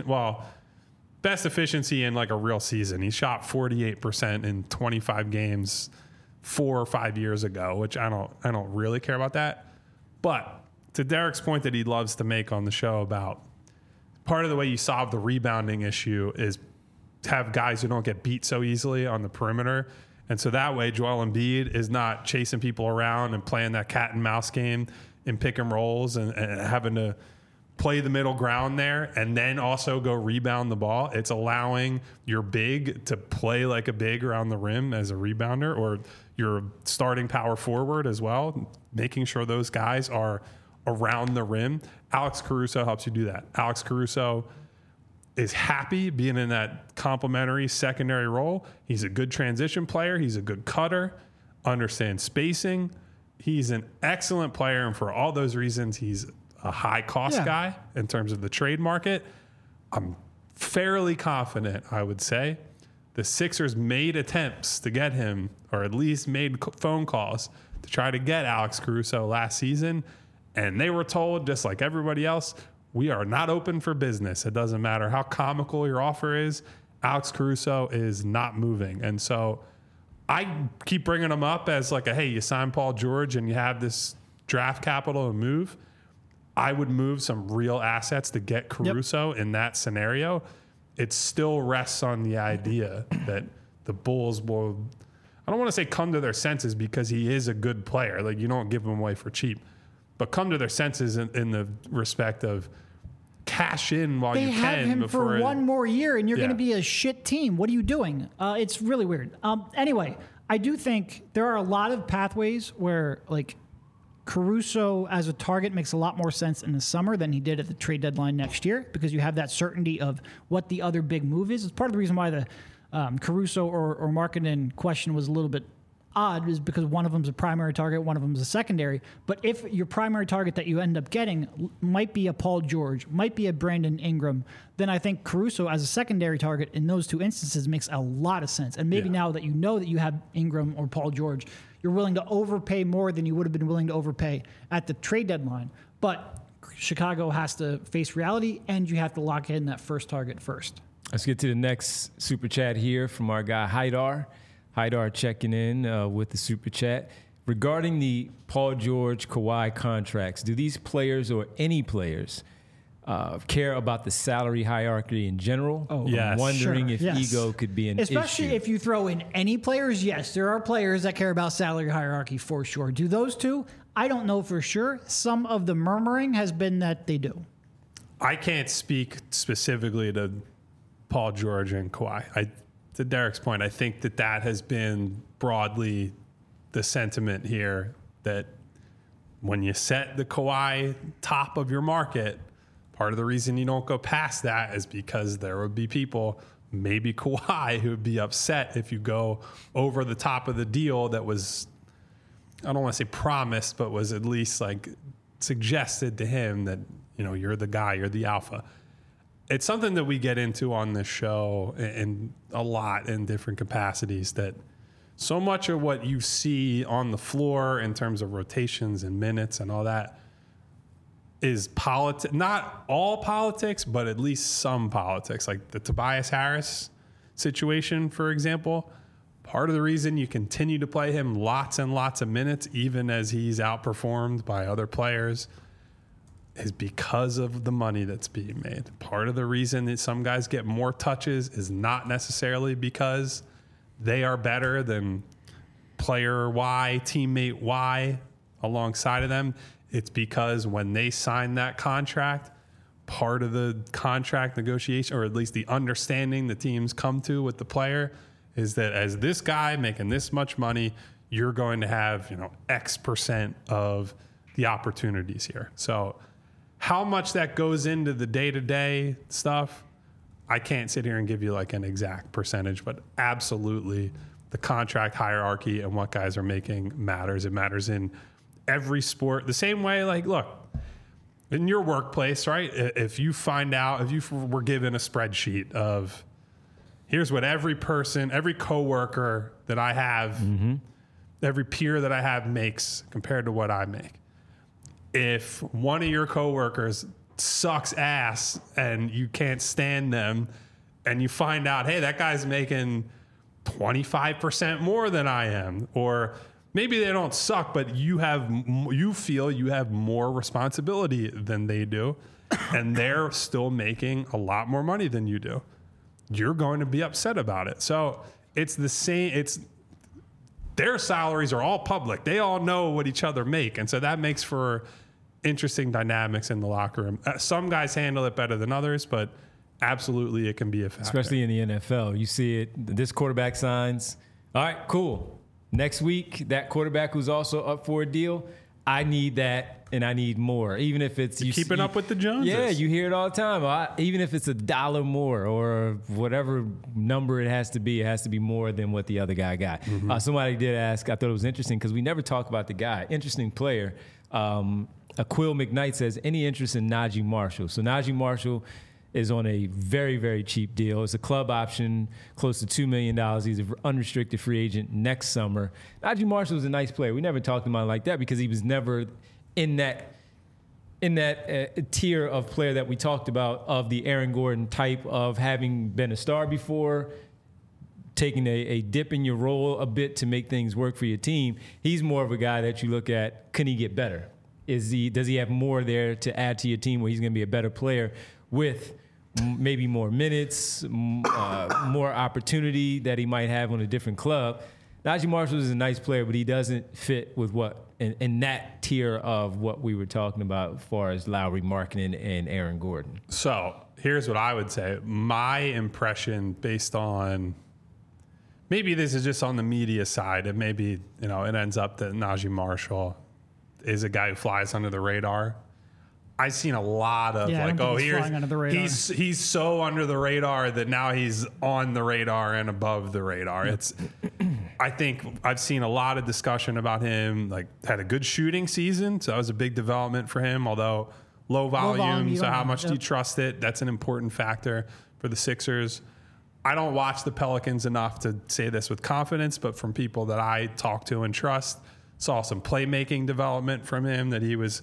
best efficiency in like a real season. He shot 48% in 25 games 4 or 5 years ago, which I don't really care about that. But to Derek's point that he loves to make on the show about part of the way you solve the rebounding issue is to have guys who don't get beat so easily on the perimeter. And so that way Joel Embiid is not chasing people around and playing that cat and mouse game in pick and rolls and having to play the middle ground there and then also go rebound the ball. It's allowing your big to play like a big around the rim as a rebounder, or your starting power forward as well, making sure those guys are around the rim. Alex Caruso helps you do that. Alex Caruso is happy being in that complementary secondary role. He's a good transition player. He's a good cutter, understands spacing. He's an excellent player, and for all those reasons, he's a high-cost guy in terms of the trade market. I'm fairly confident, I would say. The Sixers made attempts to get him, or at least made phone calls to try to get Alex Caruso last season, and they were told, just like everybody else, we are not open for business. It doesn't matter how comical your offer is. Alex Caruso is not moving. And so I keep bringing him up as like hey, you sign Paul George and you have this draft capital to move. I would move some real assets to get Caruso in that scenario. It still rests on the idea that the Bulls will, I don't want to say come to their senses because he is a good player. Like you don't give him away for cheap, but come to their senses in the respect of cash in while you They can. have him before for one more year, and you're going to Yeah. be a shit team. What are you doing? It's really weird. Anyway, I do think there are a lot of pathways where, like, Caruso as a target makes a lot more sense in the summer than he did at the trade deadline next year because you have that certainty of what the other big move is. It's part of the reason why the Caruso or Markkanen question was a little bit odd is because one of them's a primary target, one of them's a secondary. But if your primary target that you end up getting might be a Paul George, might be a Brandon Ingram, then I think Caruso as a secondary target in those two instances makes a lot of sense. And maybe now that you have Ingram or Paul George, you're willing to overpay more than you would have been willing to overpay at the trade deadline. But Chicago has to face reality, and you have to lock in that first target first. Let's get to the next super chat here from our guy Haidar. Haidar checking in with the super chat. Regarding the Paul George, Kawhi contracts, do these players or any players care about the salary hierarchy in general? Oh, yes. I'm wondering Sure, if yes. ego could be an Especially issue. if you throw in any players, yes, there are players that care about salary hierarchy for sure. Do those two? I don't know for sure. Some of the murmuring has been that they do. I can't speak specifically to Paul George and Kawhi. To Derek's point, I think that has been broadly the sentiment here, that when you set the Kawhi top of your market, part of the reason you don't go past that is because there would be people, maybe Kawhi, who would be upset if you go over the top of the deal that was, I don't want to say promised, but was at least like suggested to him that, you know, you're the guy, you're the alpha. It's something that we get into on this show and a lot in different capacities, that so much of what you see on the floor in terms of rotations and minutes and all that is politics. Not all politics, but at least some politics. Like the Tobias Harris situation, for example. Part of the reason you continue to play him lots and lots of minutes, even as he's outperformed by other players, is because of the money that's being made. Part of the reason that some guys get more touches is not necessarily because they are better than player Y, teammate Y alongside of them. It's because when they sign that contract, part of the contract negotiation, or at least the understanding the teams come to with the player, is that as this guy making this much money, you're going to have, you know, X percent of the opportunities here. So how much that goes into the day-to-day stuff, I can't sit here and give you like an exact percentage, but absolutely the contract hierarchy and what guys are making matters. It matters in every sport. The same way, like, look, in your workplace, right? If you find out, if you were given a spreadsheet of here's what every person, every coworker that I have, every peer that I have makes compared to what I make. If one of your coworkers sucks ass and you can't stand them, and you find out, hey, that guy's making 25% more than I am, or maybe they don't suck, but you feel you have more responsibility than they do, and they're still making a lot more money than you do, you're going to be upset about it. So it's the same. Their salaries are all public. They all know what each other make, and so that makes for interesting dynamics in the locker room. Some guys handle it better than others, but absolutely it can be a factor. Especially in the NFL. You see it, this quarterback signs. All right, cool. Next week, that quarterback who's also up for a deal, I need that and I need more. Even if it's... Keeping up with the Joneses. Yeah, you hear it all the time. Even if it's $1 more or whatever number it has to be more than what the other guy got. Somebody did ask, I thought it was interesting because we never talk about the guy. Interesting player. Aquil McKnight says, any interest in Najee Marshall? So Najee Marshall is on a very, very cheap deal. It's a club option, close to $2 million. He's an unrestricted free agent next summer. Najee Marshall is a nice player. We never talked about him like that because he was never in that tier of player that we talked about, of the Aaron Gordon type of having been a star before, taking a dip in your role a bit to make things work for your team. He's more of a guy that you look at, can he get better? Does he have more there to add to your team where he's going to be a better player with maybe more minutes, more opportunity that he might have on a different club? Najee Marshall is a nice player, but he doesn't fit with what in that tier of what we were talking about as far as Lowry, Markkanen, and Aaron Gordon. So here's what I would say. My impression, based on, maybe this is just on the media side, and maybe, you know, it ends up that Najee Marshall is a guy who flies under the radar. I've seen a lot of he's so under the radar that now he's on the radar and above the radar. Yep. I think I've seen a lot of discussion about him, like had a good shooting season. So that was a big development for him, although low volume. So how much do you trust it? That's an important factor for the Sixers. I don't watch the Pelicans enough to say this with confidence, but from people that I talk to and trust, saw some playmaking development from him, that he was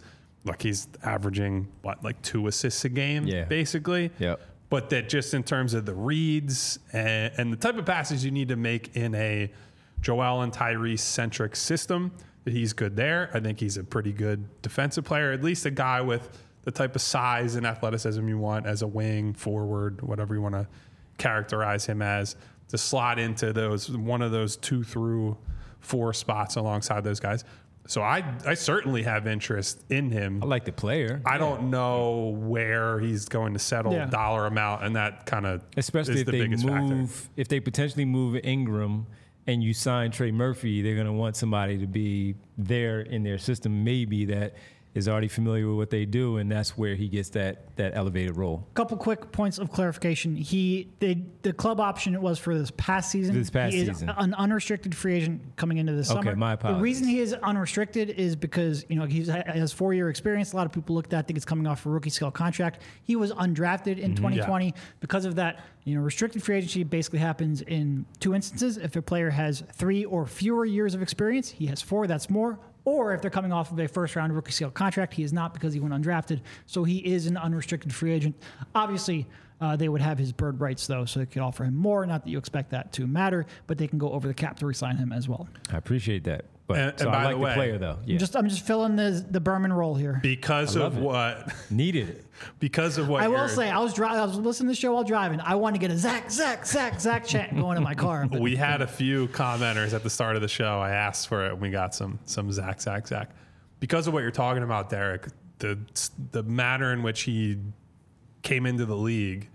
like he's averaging like 2 assists a game, basically. Yep. But that just in terms of the reads and the type of passes you need to make in a Joel and Tyrese centric system, that he's good there. I think he's a pretty good defensive player, at least a guy with the type of size and athleticism you want as a wing, forward, whatever you want to characterize him as, to slot into one of those 2 through 4 spots alongside those guys. So I certainly have interest in him. I like the player. I don't know where he's going to settle dollar amount, and that kind of especially is if the they biggest move, factor. if they potentially move Ingram and you sign Trey Murphy, they're going to want somebody to be there in their system, maybe that is already familiar with what they do, and that's where he gets that elevated role. Couple quick points of clarification. The club option was for this past season. He is an unrestricted free agent coming into the summer. Okay, my apologies. The reason he is unrestricted is because he has 4-year experience. A lot of people looked at, I think it's coming off a rookie scale contract. He was undrafted in 2020. Yeah. Because of that, restricted free agency basically happens in 2 instances. If a player has 3 or fewer years of experience, he has 4. That's more. Or if they're coming off of a first-round rookie scale contract, he is not, because he went undrafted. So he is an unrestricted free agent. Obviously, they would have his bird rights, though, so they could offer him more. Not that you expect that to matter, but they can go over the cap to re-sign him as well. I appreciate that. But and I by like the way, player, though. Yeah. I'm just filling the Berman role here. Because of what? Needed it. Because of what I will say, I was listening to the show while driving. I wanted to get a Zach chant going in my car. We had a few commenters at the start of the show. I asked for it, and we got some Zach. Because of what you're talking about, Derek, the manner in which he came into the league,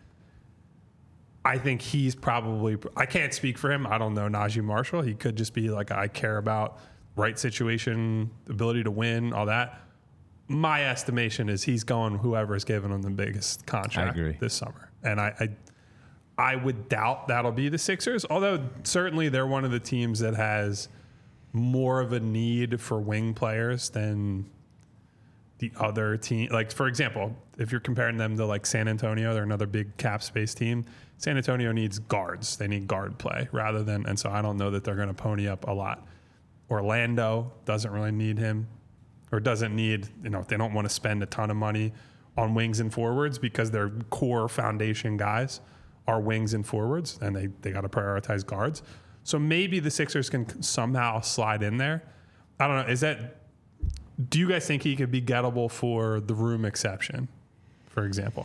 I think he's probably, I can't speak for him. I don't know Najee Marshall. He could just be like, I care about right situation, ability to win, all that. My estimation is he's going whoever is giving him the biggest contract this summer. And I would doubt that'll be the Sixers, although certainly they're one of the teams that has more of a need for wing players than the other team. Like, for example, if you're comparing them to like San Antonio, they're another big cap space team. San Antonio needs guards. They need guard play rather than, and so I don't know that they're going to pony up a lot. Orlando doesn't really need him, or doesn't need, they don't want to spend a ton of money on wings and forwards because their core foundation guys are wings and forwards, and they got to prioritize guards. So maybe the Sixers can somehow slide in there. I don't know. Do you guys think he could be gettable for the room exception, for example?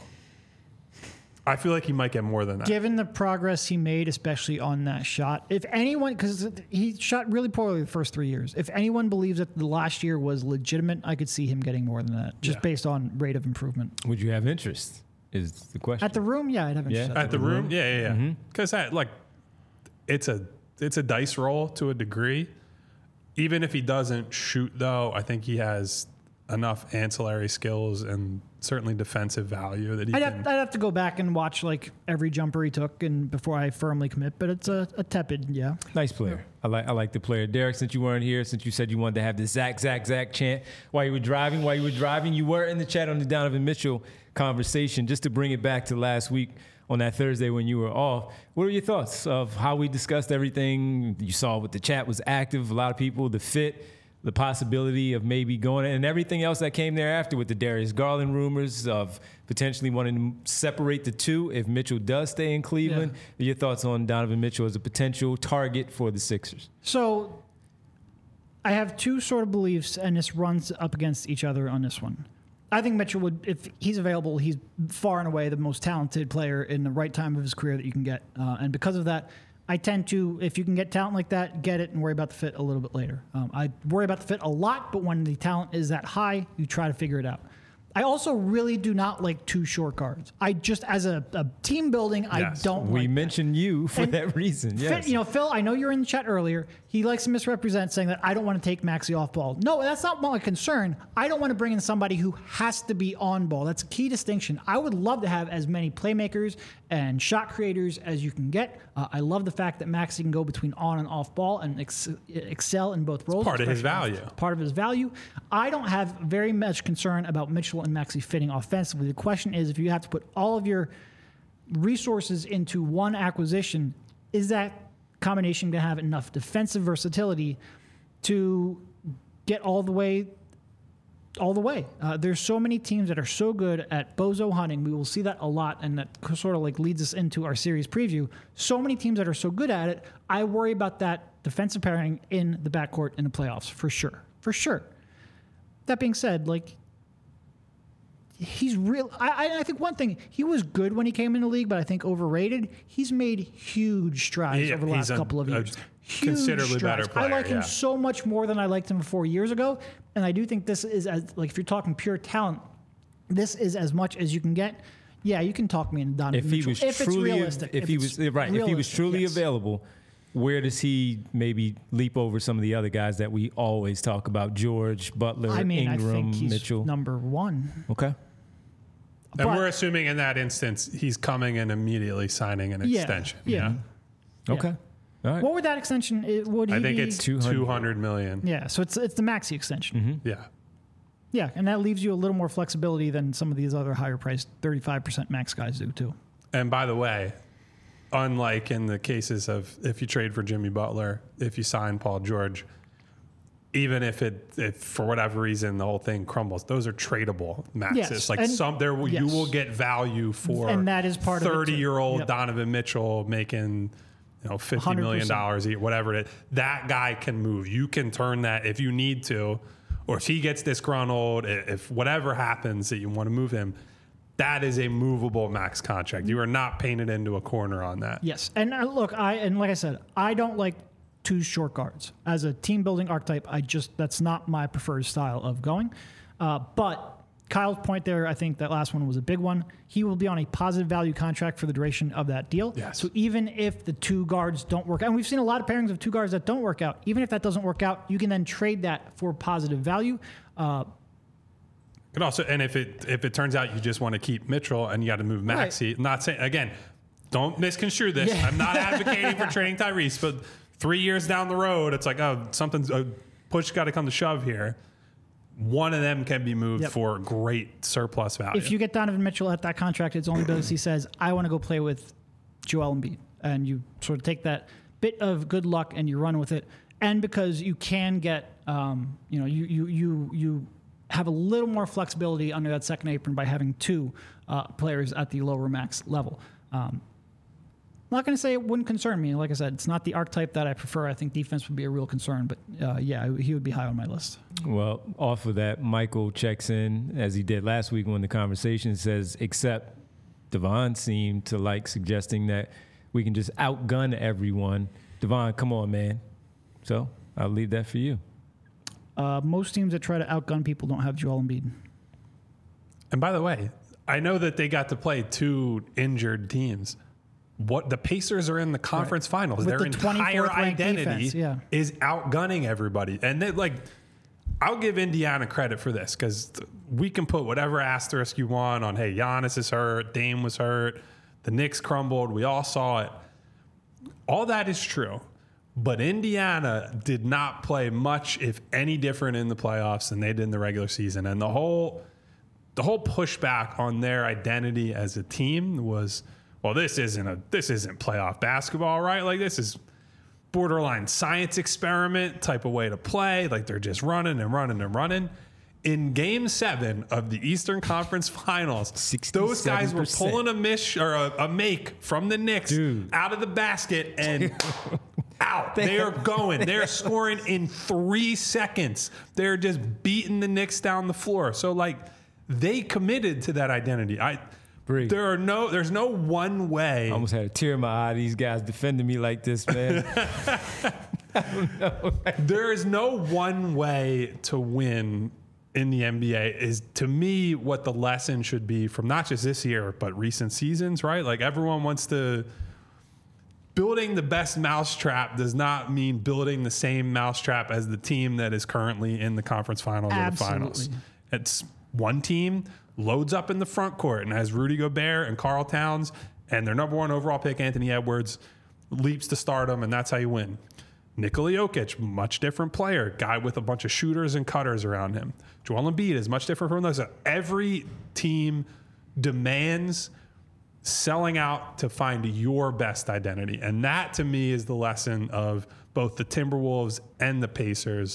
I feel like he might get more than that. Given the progress he made, especially on that shot, if anyone, because he shot really poorly the first 3 years, if anyone believes that the last year was legitimate, I could see him getting more than that, just based on rate of improvement. Would you have interest, is the question. At the room, yeah, I'd have interest. At the room? Yeah. Because it's a dice roll to a degree. Even if he doesn't shoot, though, I think he has enough ancillary skills and certainly defensive value that I'd have to go back and watch like every jumper he took and before I firmly commit, but it's a tepid, Nice player. I like the player. Derek, since you weren't here, since you said you wanted to have the Zach chant while you were driving, you were in the chat on the Donovan Mitchell conversation. Just to bring it back to last week on that Thursday when you were off, what are your thoughts of how we discussed everything? You saw what the chat was active, a lot of people, the fit, the possibility of maybe going, and everything else that came thereafter with the Darius Garland rumors of potentially wanting to separate the two if Mitchell does stay in Cleveland. Yeah. Your thoughts on Donovan Mitchell as a potential target for the Sixers? So I have two sort of beliefs, and this runs up against each other on this one. I think Mitchell would, if he's available, he's far and away the most talented player in the right time of his career that you can get. And because of that, I tend to, if you can get talent like that, get it and worry about the fit a little bit later. I worry about the fit a lot, but when the talent is that high, you try to figure it out. I also really do not like too short guards. I just, as a team building, I don't like We mentioned you for that reason, yes. Phil, I know you were in the chat earlier. He likes to misrepresent, saying that I don't want to take Maxey off ball. No, that's not my concern. I don't want to bring in somebody who has to be on ball. That's a key distinction. I would love to have as many playmakers and shot creators as you can get. I love the fact that Maxey can go between on and off ball and excel in both roles. It's part of his value. Part of his value. I don't have very much concern about Mitchell and Maxey fitting offensively. The question is, if you have to put all of your resources into one acquisition, is that combination going to have enough defensive versatility to get all the way all the way. There's so many teams that are so good at bozo hunting. We will see that a lot, and that sort of like leads us into our series preview. So many teams that are so good at it. I worry about that defensive pairing in the backcourt in the playoffs for sure. For sure. That being said, like, he's real. I think one thing, he was good when he came in the league, but I think overrated. He's made huge strides over the last couple of years. Considerably better player. I like him so much more than I liked him 4 years ago. And I do think this is, as like, if you're talking pure talent, this is as much as you can get. Yeah, you can talk me into Donovan Mitchell. If he was truly available, where does he maybe leap over some of the other guys that we always talk about? George, Butler, Ingram, I think he's Mitchell. number one. Okay. And we're assuming in that instance, he's coming and immediately signing an extension. Yeah. Okay. All right. What would that extension? I think it's $200 million. Yeah, so it's the maxi extension. Mm-hmm. Yeah. Yeah, and that leaves you a little more flexibility than some of these other higher priced 35% max guys do too. And by the way, unlike in the cases of if you trade for Jimmy Butler, if you sign Paul George, even if for whatever reason the whole thing crumbles, those are tradable maxes. Yes. You will get value for, and that is part 30-year-old Donovan Mitchell making $50 million a year, whatever it is. That guy can move. You can turn that if you need to, or if he gets disgruntled, if whatever happens that you want to move him. That is a movable max contract. You are not painted into a corner on that. Yes, and look, like I said, I don't like two short guards as a team building archetype. That's not my preferred style of going. But Kyle's point there, I think that last one was a big one. He will be on a positive value contract for the duration of that deal. Yes. So even if the two guards don't work out, and we've seen a lot of pairings of two guards that don't work out, even if that doesn't work out, you can then trade that for positive value. And if it turns out you just want to keep Mitchell and you got to move Maxey, right. Not saying, again, don't misconstrue this. Yeah. I'm not advocating for trading Tyrese, but 3 years down the road, it's like, something's a push got to come to shove here. One of them can be moved for great surplus value. If you get Donovan Mitchell at that contract, it's only because he says, I want to go play with Joel Embiid. And you sort of take that bit of good luck and you run with it. And because you can get, you have a little more flexibility under that second apron by having two players at the lower max level. I'm not going to say it wouldn't concern me. Like I said, it's not the archetype that I prefer. I think defense would be a real concern, but he would be high on my list. Well, off of that, Michael checks in, as he did last week when the conversation says, except Devon seemed to like suggesting that we can just outgun everyone. Devon, come on, man. So I'll leave that for you. Most teams that try to outgun people don't have Joel Embiid. And by the way, I know that they got to play two injured teams. What the Pacers are in the conference finals. With Their the entire identity defense, is outgunning everybody. And I'll give Indiana credit for this because we can put whatever asterisk you want on, hey, Giannis is hurt, Dame was hurt, the Knicks crumbled, we all saw it. All that is true. But Indiana did not play much, if any, different in the playoffs than they did in the regular season. And the whole pushback on their identity as a team was, well, this isn't playoff basketball, right? Like, this is borderline science experiment type of way to play. Like, they're just running and running and running. In Game 7 of the Eastern Conference Finals, 67%. Those guys were pulling a make from the Knicks out of the basket and out. They are going. They're scoring in 3 seconds. They're just beating the Knicks down the floor. So, they committed to that identity. There's no one way. I almost had a tear in my eye. These guys defending me like this, man. I don't know. There is no one way to win in the NBA. Is, to me, what the lesson should be from not just this year, but recent seasons, right? Like, everyone wants to. Building the best mousetrap does not mean building the same mousetrap as the team that is currently in the conference finals or the finals. It's one team loads up in the front court and has Rudy Gobert and Karl Towns and their number one overall pick, Anthony Edwards, leaps to stardom, and that's how you win. Nikola Jokic, much different player, guy with a bunch of shooters and cutters around him. Joel Embiid is much different from those. Every team demands selling out to find your best identity. And that, to me, is the lesson of both the Timberwolves and the Pacers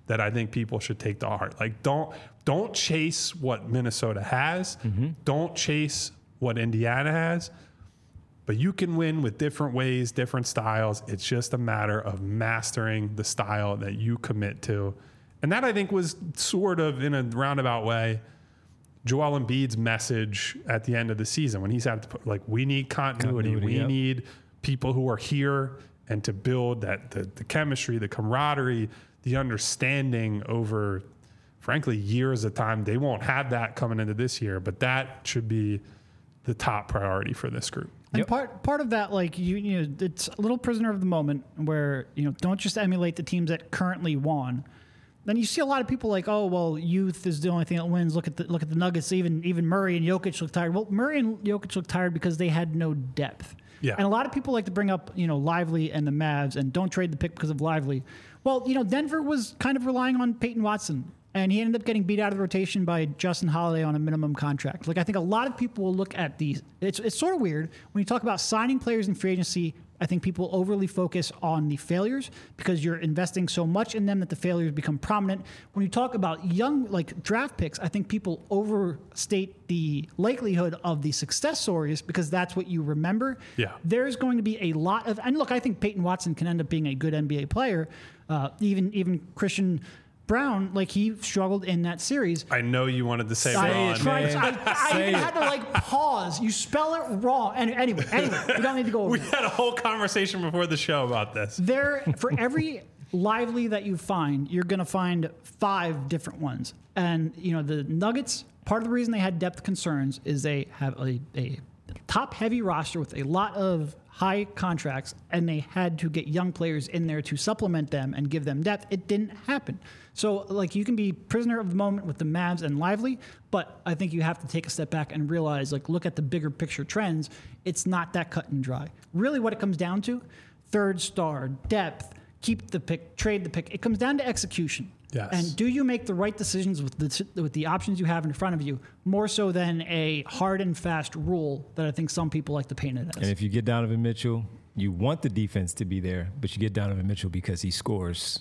that I think people should take to heart. Like, don't chase what Minnesota has. Don't chase what Indiana has. But you can win with different ways, different styles. It's just a matter of mastering the style that you commit to. And that, I think, was sort of, in a roundabout way, Joel Embiid's message at the end of the season when he said, like, we need continuity. We need people who are here and to build that the chemistry, the camaraderie, the understanding over, frankly, years of time. They won't have that coming into this year, but that should be the top priority for this group. And part of that, like, you know, it's a little prisoner of the moment where, you know, don't just emulate the teams that currently won. Then you see a lot of people like, oh, well, youth is the only thing that wins. Look at the Nuggets. Even Murray and Jokic look tired. Well, Murray and Jokic look tired because they had no depth. Yeah. And a lot of people like to bring up, you know, Lively and the Mavs and don't trade the pick because of Lively. Well, you know, Denver was kind of relying on Peyton Watson, and he ended up getting beat out of the rotation by Justin Holiday on a minimum contract. Like, I think a lot of people will look at these. It's sort of weird when you talk about signing players in free agency. I think people overly focus on the failures because you're investing so much in them that the failures become prominent. When you talk about young, like, draft picks, I think people overstate the likelihood of the success stories because that's what you remember. Yeah. There's going to be a lot of, and look, I think Peyton Watson can end up being a good NBA player. Even Christian Brown, like, he struggled in that series. I know you wanted to say Ron. I even had to, like, pause. You spell it wrong. And anyway, we don't need to go over We it. had a whole conversation before the show about this. For every Lively that you find, you're going to find 5 different ones. And, you know, the Nuggets, part of the reason they had depth concerns is they have a top-heavy roster with a lot of high contracts, and they had to get young players in there to supplement them and give them depth. It didn't happen. So, like, you can be prisoner of the moment with the Mavs and Lively, but I think you have to take a step back and realize, like, look at the bigger picture trends. It's not that cut and dry. Really what it comes down to, third star, depth, keep the pick, trade the pick. It comes down to execution. Yes. And do you make the right decisions with the options you have in front of you, more so than a hard and fast rule that I think some people like to paint it as. And if you get Donovan Mitchell, you want the defense to be there, but you get Donovan Mitchell because he scores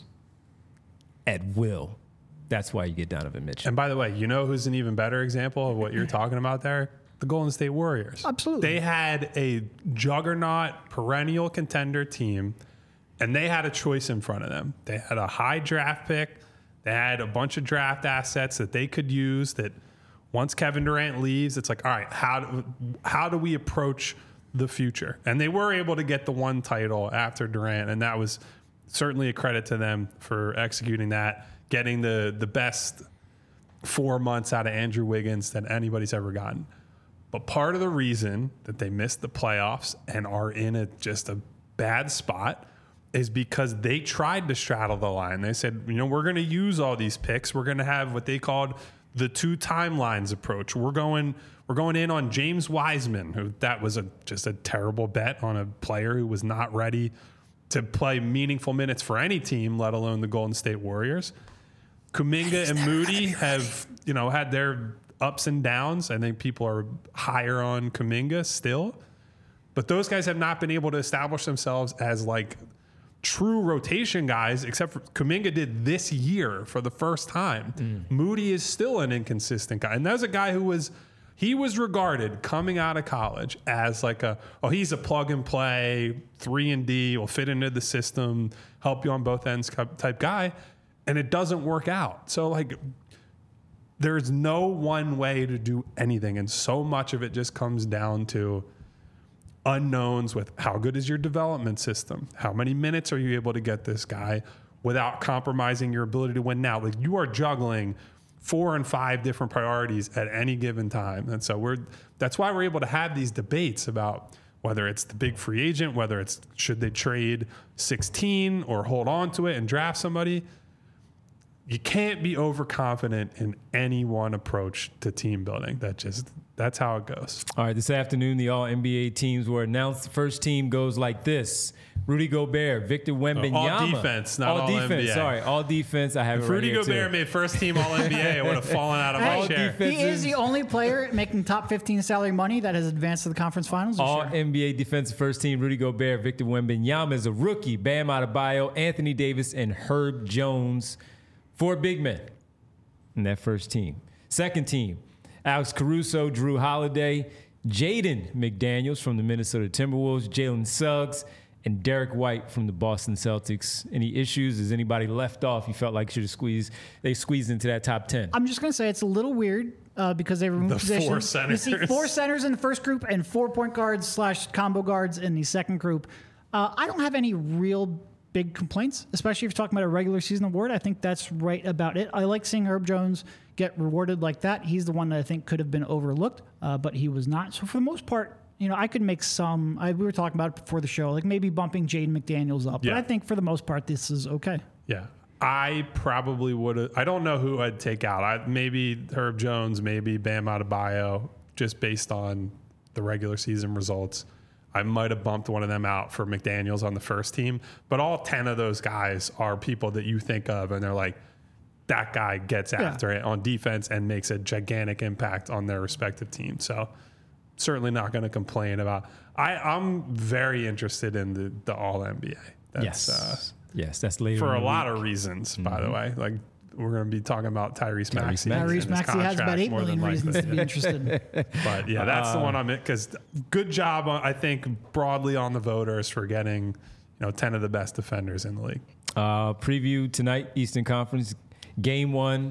at will. That's why you get Donovan Mitchell. And by the way, you know who's an even better example of what you're talking about there? The Golden State Warriors. Absolutely. They had a juggernaut, perennial contender team, and they had a choice in front of them. They had a high draft pick. They had a bunch of draft assets that they could use that once Kevin Durant leaves, it's like, all right, how do we approach the future? And they were able to get the one title after Durant, and that was certainly a credit to them for executing that, getting the best 4 months out of Andrew Wiggins that anybody's ever gotten. But part of the reason that they missed the playoffs and are in just a bad spot is because they tried to straddle the line. They said, you know, we're going to use all these picks. We're going to have what they called the 2 timelines approach. We're going in on James Wiseman, who that was just a terrible bet on a player who was not ready to play meaningful minutes for any team, let alone the Golden State Warriors. Kuminga and Moody have, you know, had their ups and downs. I think people are higher on Kuminga still, but those guys have not been able to establish themselves as, like, true rotation guys, except for Kuminga did this year for the first time. Moody is still an inconsistent guy. And that was a guy who was regarded coming out of college as like he's a plug and play, 3-and-D, will fit into the system, help you on both ends type guy. And it doesn't work out. So, like, there's no one way to do anything. And so much of it just comes down to unknowns with how good is your development system? How many minutes are you able to get this guy without compromising your ability to win now? Like, you are juggling 4 and 5 different priorities at any given time. And so that's why we're able to have these debates about whether it's the big free agent, whether it's should they trade 16 or hold on to it and draft somebody. You can't be overconfident in any one approach to team building. That's how it goes. All right, this afternoon, the All-NBA teams were announced. The first team goes like this. Rudy Gobert, Victor Wembanyama. All defense, not all defense. NBA. Sorry, all defense. I have if it right Rudy here Gobert too. made first team All-NBA, I would have fallen out of my chair. He is the only player making top 15 salary money that has advanced to the conference finals this All year. NBA defensive first team, Rudy Gobert, Victor Wembanyama is a rookie, Bam Adebayo, Anthony Davis, and Herb Jones. 4 big men in that first team. Second team, Alex Caruso, Drew Holiday, Jaden McDaniels from the Minnesota Timberwolves, Jalen Suggs, and Derek White from the Boston Celtics. Any issues? Is anybody left off you felt like should have squeezed into that top 10? I'm just going to say it's a little weird because they removed positions. 4 centers. You see 4 centers in the first group and 4 point guards / combo guards in the second group. I don't have any real big complaints, especially if you're talking about a regular season award. I think that's right about it. I like seeing Herb Jones get rewarded like that. He's the one that I think could have been overlooked, but he was not. So for the most part, I could make some. We were talking about it before the show, like maybe bumping Jaden McDaniels up. Yeah. But I think for the most part, this is okay. Yeah. I probably would have. I don't know who I'd take out. Maybe Herb Jones, maybe Bam Adebayo, just based on the regular season results. I might have bumped one of them out for McDaniels on the first team. But all 10 of those guys are people that you think of, and they're like, that guy gets after it on defense and makes a gigantic impact on their respective teams. So certainly not going to complain about. I'm very interested in the All NBA. Yes, that's later for a lot of reasons. By the way, like we're going to be talking about Tyrese Maxey. Tyrese Maxey has about 8 million reasons to be interested. But yeah, that's the one I'm in, because good job, I think, broadly on the voters for getting 10 of the best defenders in the league. Preview tonight, Eastern Conference, Game 1.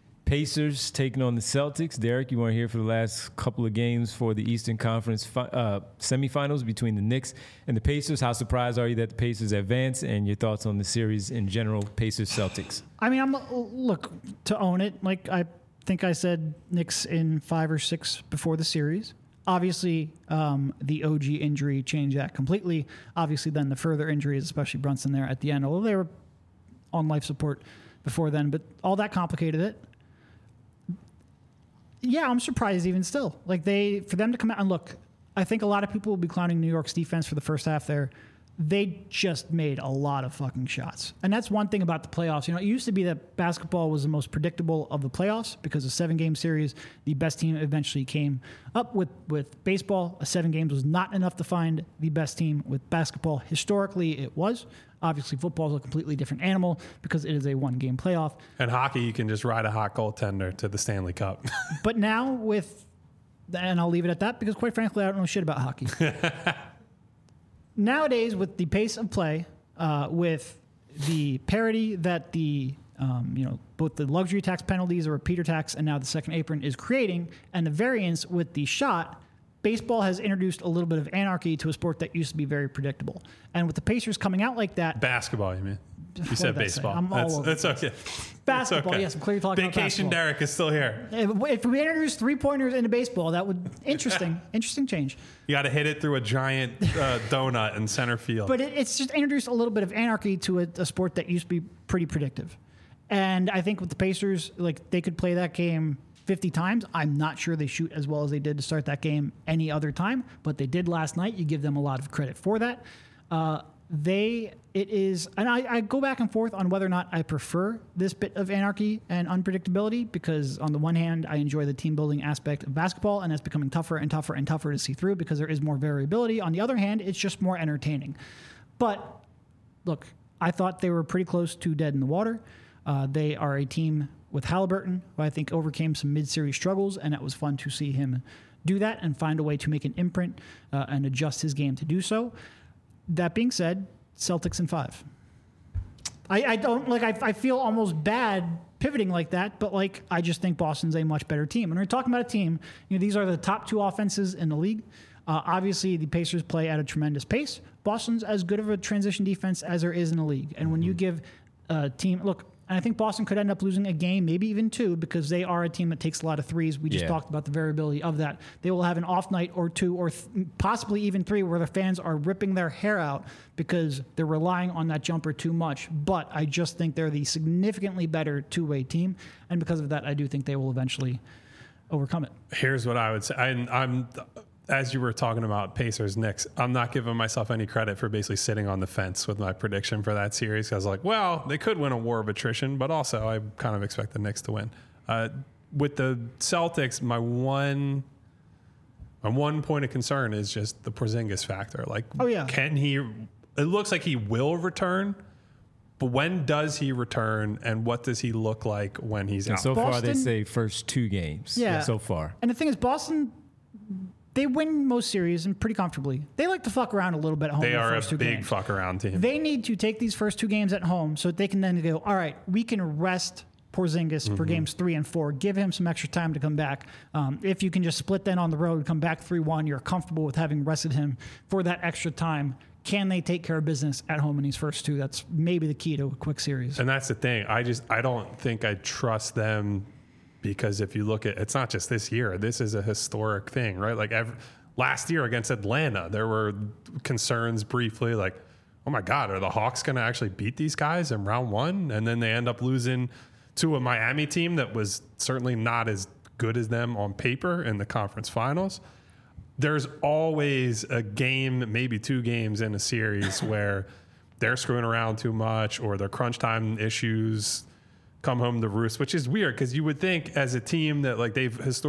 Pacers taking on the Celtics. Derek, you want to hear for the last couple of games for the Eastern Conference semifinals between the Knicks and the Pacers? How surprised are you that the Pacers advance, and your thoughts on the series in general, Pacers-Celtics? I mean, look, to own it, like I think I said Knicks in 5 or 6 before the series. Obviously, the OG injury changed that completely. Obviously, then the further injuries, especially Brunson there at the end, although they were on life support before then, but all that complicated it. Yeah, I'm surprised even still. Like for them to come out and look, I think a lot of people will be clowning New York's defense for the first half there. They just made a lot of fucking shots. And that's one thing about the playoffs. It used to be that basketball was the most predictable of the playoffs because of 7-game series. The best team eventually came up with baseball. 7 games was not enough to find the best team. With basketball, historically, it was. Obviously, football is a completely different animal because it is a 1-game playoff. And hockey, you can just ride a hot goaltender to the Stanley Cup. But now and I'll leave it at that because quite frankly, I don't know shit about hockey. Nowadays, with the pace of play, with the parity that both the luxury tax penalties, or repeater tax, and now the second apron is creating, and the variance with the shot, baseball has introduced a little bit of anarchy to a sport that used to be very predictable. And with the Pacers coming out like that... Basketball, you mean? You said baseball. I'm all over. That's okay. Basketball, okay. Yes, I'm clearly talking about Vacation basketball. Derek is still here. If we introduce 3-pointers into baseball, that would... Interesting change. You got to hit it through a giant donut in center field. But it's just introduced a little bit of anarchy to a sport that used to be pretty predictive. And I think with the Pacers, like they could play that game 50 times. I'm not sure they shoot as well as they did to start that game any other time, but they did last night. You give them a lot of credit for that. And I go back and forth on whether or not I prefer this bit of anarchy and unpredictability, because on the one hand, I enjoy the team building aspect of basketball, and it's becoming tougher and tougher and tougher to see through because there is more variability. On the other hand, it's just more entertaining. But look, I thought they were pretty close to dead in the water. They are a team with Halliburton, who I think overcame some mid-series struggles, and it was fun to see him do that and find a way to make an imprint and adjust his game to do so. That being said, Celtics in 5. I feel almost bad pivoting like that, but I just think Boston's a much better team. And we're talking about a team, these are the top 2 offenses in the league. Obviously, the Pacers play at a tremendous pace. Boston's as good of a transition defense as there is in the league. And when you give a team, and I think Boston could end up losing a game, maybe even 2, because they are a team that takes a lot of threes. We just talked about the variability of that. They will have an off night or 2 or possibly even 3 where the fans are ripping their hair out because they're relying on that jumper too much. But I just think they're the significantly better two-way team. And because of that, I do think they will eventually overcome it. Here's what I would say. I'm as you were talking about Pacers Knicks, I'm not giving myself any credit for basically sitting on the fence with my prediction for that series. I was like, well, they could win a war of attrition, but also I kind of expect the Knicks to win. With the Celtics, my one point of concern is just the Porzingis factor. Can he? It looks like he will return, But when does he return, and what does he look like when he's out? So far, they Boston- say first 2 games. Yeah. So far. And the thing is, Boston, they win most series and pretty comfortably. They like to fuck around a little bit at home. They in the are a first 2 big games. fuck around team. They need to take these first 2 games at home so that they can then go, all right, we can rest Porzingis for games 3 and 4. Give him some extra time to come back. If you can just split then on the road, come back 3-1, you're comfortable with having rested him for that extra time. Can they take care of business at home in these first 2? That's maybe the key to a quick series. And that's the thing. I don't think I trust them, because if you look at, it's not just this year. This is a historic thing, right? Like last year against Atlanta, there were concerns briefly like, oh my God, are the Hawks going to actually beat these guys in round 1? And then they end up losing to a Miami team that was certainly not as good as them on paper in the conference finals. There's always a game, maybe 2 games in a series where they're screwing around too much, or their crunch time issues come home to roost, which is weird because you would think as a team that like they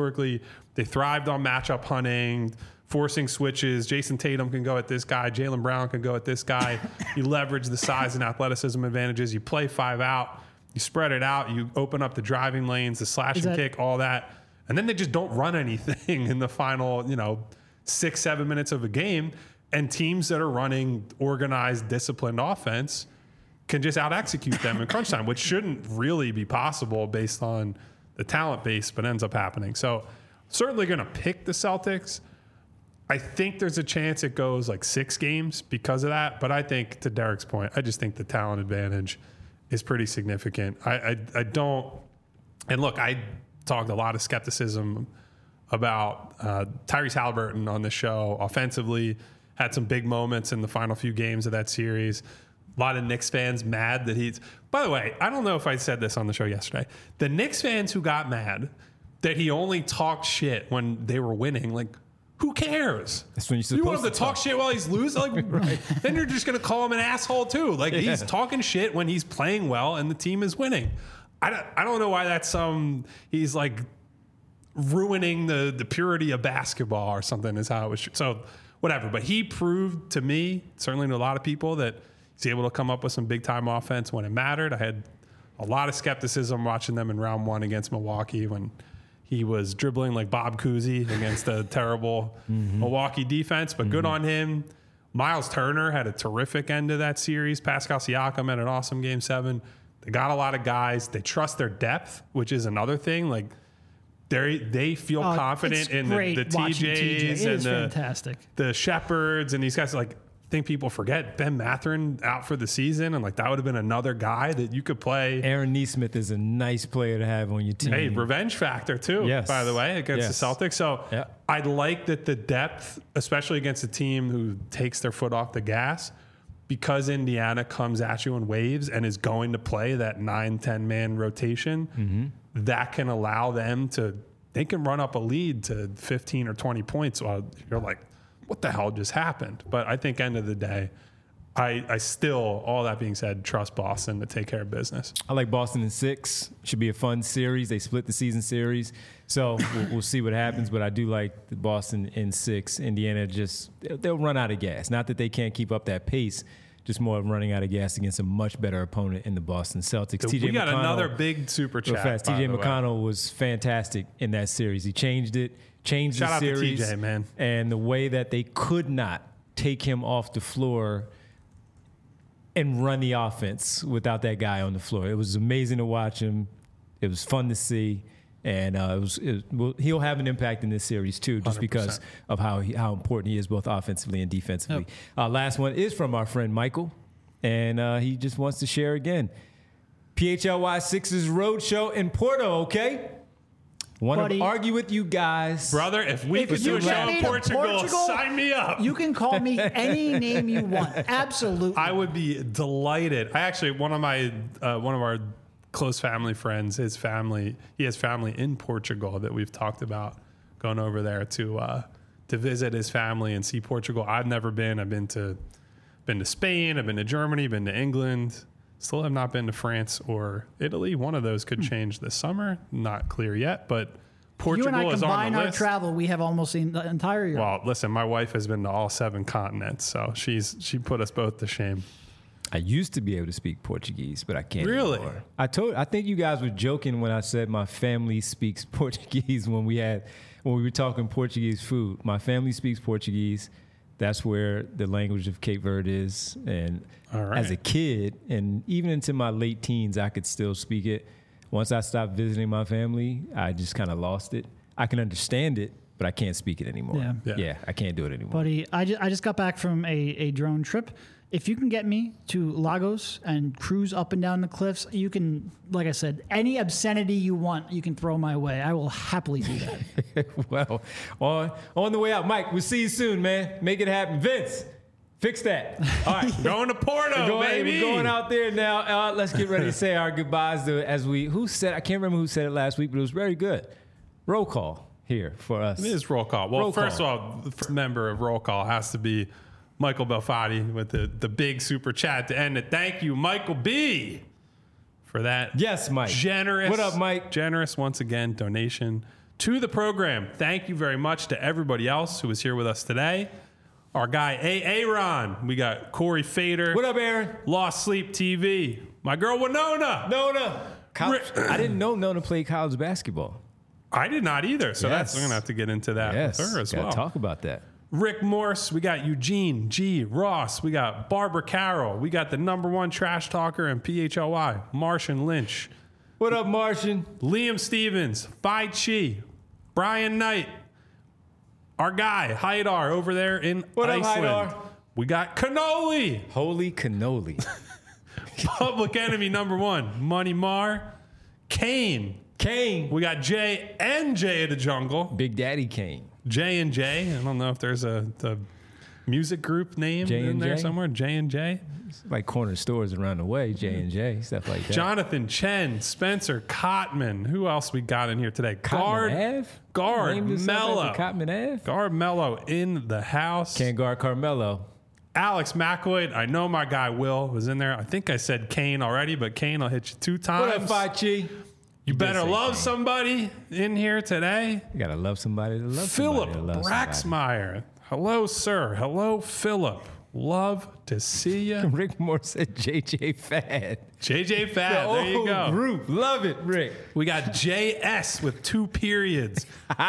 thrived on matchup hunting, forcing switches. Jason Tatum can go at this guy. Jaylen Brown can go at this guy. You leverage the size and athleticism advantages. You play 5 out. You spread it out. You open up the driving lanes, the slash and kick, all that. And then they just don't run anything in the final, 6-7 minutes of a game. And teams that are running organized, disciplined offense can just out-execute them in crunch time, which shouldn't really be possible based on the talent base, but ends up happening. So certainly going to pick the Celtics. I think there's a chance it goes like 6 games because of that. But I think, to Derek's point, I just think the talent advantage is pretty significant. I don't, and look, I talked a lot of skepticism about Tyrese Halliburton on the show. Offensively, had some big moments in the final few games of that series. A lot of Knicks fans mad that he's, by the way, I don't know if I said this on the show yesterday. The Knicks fans who got mad that he only talked shit when they were winning, like, who cares? That's when you're supposed you want him to talk shit while he's losing? Like, right. Then you're just going to call him an asshole too. Like, he's talking shit when he's playing well and the team is winning. I don't know why that's he's like ruining the purity of basketball or something is how it was. So whatever. But he proved to me, certainly to a lot of people, that he's able to come up with some big time offense when it mattered. I had a lot of skepticism watching them in round 1 against Milwaukee when he was dribbling like Bob Cousy against a terrible Milwaukee defense, but good on him. Miles Turner had a terrific end to that series. Pascal Siakam had an awesome Game 7. They got a lot of guys. They trust their depth, which is another thing. Like they feel confident in the TJs and fantastic. The Shepherds and these guys. Like, I think people forget Ben Mathurin out for the season, and like that would have been another guy that you could play. Aaron Nesmith is a nice player to have on your team. Hey, revenge factor too, by the way, against the Celtics. So I like that the depth, especially against a team who takes their foot off the gas, because Indiana comes at you in waves and is going to play that 9-10 man rotation, that can allow them they can run up a lead to 15 or 20 points while you're like, what the hell just happened? But I think end of the day, I still, all that being said, trust Boston to take care of business. I like Boston in 6. Should be a fun series. They split the season series. So we'll see what happens. But I do like the Boston in 6. Indiana they'll run out of gas. Not that they can't keep up that pace, just more of running out of gas against a much better opponent in the Boston Celtics. We got another big super chat. TJ McConnell was fantastic in that series. He changed it. Changed Shout the out series, to TJ, man. And the way that they could not take him off the floor and run the offense without that guy on the floor. It was amazing to watch him. It was fun to see, and he'll have an impact in this series too, just 100%. because of how important he is both offensively and defensively. Last one is from our friend Michael, and he just wants to share again. PHLY Sixers Roadshow in Porto, okay? Want to argue with you guys. Brother, if we could do a show in Portugal, sign me up. You can call me any name you want. Absolutely. I would be delighted. I actually, one of our close family friends, he has family in Portugal that we've talked about going over there to visit his family and see Portugal. I've never been. I've been to Spain, I've been to Germany, been to England. Still have not been to France or Italy. One of those could change this summer. Not clear yet, but Portugal is on the list. You and I combine our travel, we have almost seen the entire year. Well, listen, my wife has been to all 7 continents, so she put us both to shame. I used to be able to speak Portuguese, but I can't Really? anymore. I think you guys were joking when I said my family speaks Portuguese when we were talking Portuguese food. My family speaks Portuguese. That's where the language of Cape Verde is. And All right. as a kid, and even into my late teens, I could still speak it. Once I stopped visiting my family, I just kind of lost it. I can understand it, but I can't speak it anymore. Yeah. I can't do it anymore. Buddy, I just got back from a drone trip. If you can get me to Lagos and cruise up and down the cliffs, you can, like I said, any obscenity you want, you can throw my way. I will happily do that. Well, on the way out, Mike, we'll see you soon, man. Make it happen. Vince, fix that. All right. Going to Porto, baby. We're going out there now. Let's get ready to say our goodbyes I can't remember who said it last week, but it was very good. Roll call here for us. It is roll call. Well, first call. of all, the first member of roll call has to be Michael Belfatti with the big super chat to end it. Thank you, Michael B, for that. Yes, Mike. Generous. What up, Mike? Generous, once again, donation to the program. Thank you very much to everybody else who was here with us today. Our guy, Aaron. We got Corey Fader. What up, Aaron? Lost Sleep TV. My girl, Winona. I didn't know Nona played college basketball. I did not either. So Yes. we're going to have to get into that Yes. with her as Gotta well. talk about that. Rick Morse, we got Eugene G. Ross, we got Barbara Carroll, we got the #1 trash talker in PHLY, Martian Lynch, What up, Martian? Liam Stevens, Phi Chi, Brian Knight, our guy, Haidar, over there in What up, Iceland. Haidar? We got Cannoli, Holy cannoli. Public Enemy #1, Money Mar, Kane. We got Jay and Jay of the Jungle. Big Daddy Kane. J and J. I don't know if there's a music group name J in and there J? somewhere. J and J. Like corner stores around the way, J&J, stuff like that. Jonathan Chen, Spencer Cotman. Who else we got in here today? Cotman Ave? Guard Named himself Mello. after Cotman Ave? Guard Mello in the house. Can't guard Carmelo. Alex McElroy. I know my guy Will was in there. I think I said Kane already, but Kane, I'll hit you 2 times. What up, Fachi? You better say love Kane. somebody in here today. You gotta love somebody to love Philip somebody to love somebody. Braxmeyer. Hello, sir. Hello, Philip. Love to see you. Rick Moore said JJ Fad. JJ Fad. There you go. Group. Love it, Rick. We got JS with 2 periods.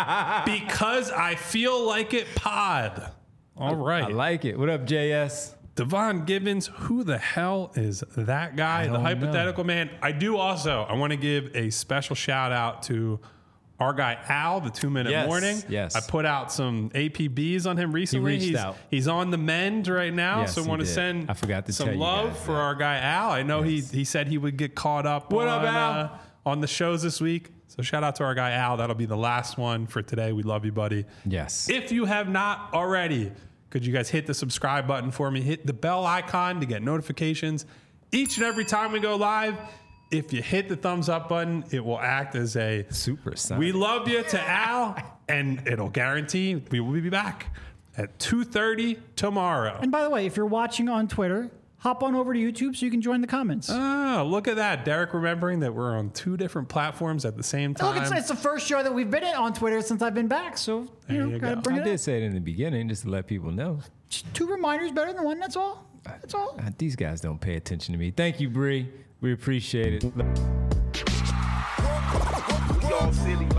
Because I feel like it pod. All right. I like it. What up, JS? Devon Gibbons, who the hell is that guy? The don't hypothetical man. I want to give a special shout out to our guy Al, the 2-minute Yes, morning. yes. I put out some APBs on him recently. reached out. He's on the mend right now, Yes, so I he want to did. send I forgot to some tell you love guys for that. our guy Al. I know he said he would get caught up What up, Al? on the shows this week. So shout out to our guy Al. That'll be the last one for today. We love you, buddy. Yes. If you have not already, could you guys hit the subscribe button for me? Hit the bell icon to get notifications each and every time we go live. If you hit the thumbs up button, it will act as a Super son. we love you to Al, and it'll guarantee we will be back at 2:30 tomorrow. And by the way, if you're watching on Twitter, hop on over to YouTube so you can join the comments. Oh, look at that. Derek remembering that we're on 2 different platforms at the same time. Look, it's the first show that we've been on Twitter since I've been back, so There you gotta go. bring I it did up. say it in the beginning just to let people know. Just 2 reminders better than 1. That's all. That's all. These guys don't pay attention to me. Thank you, Bree. We appreciate it. Y'all silly.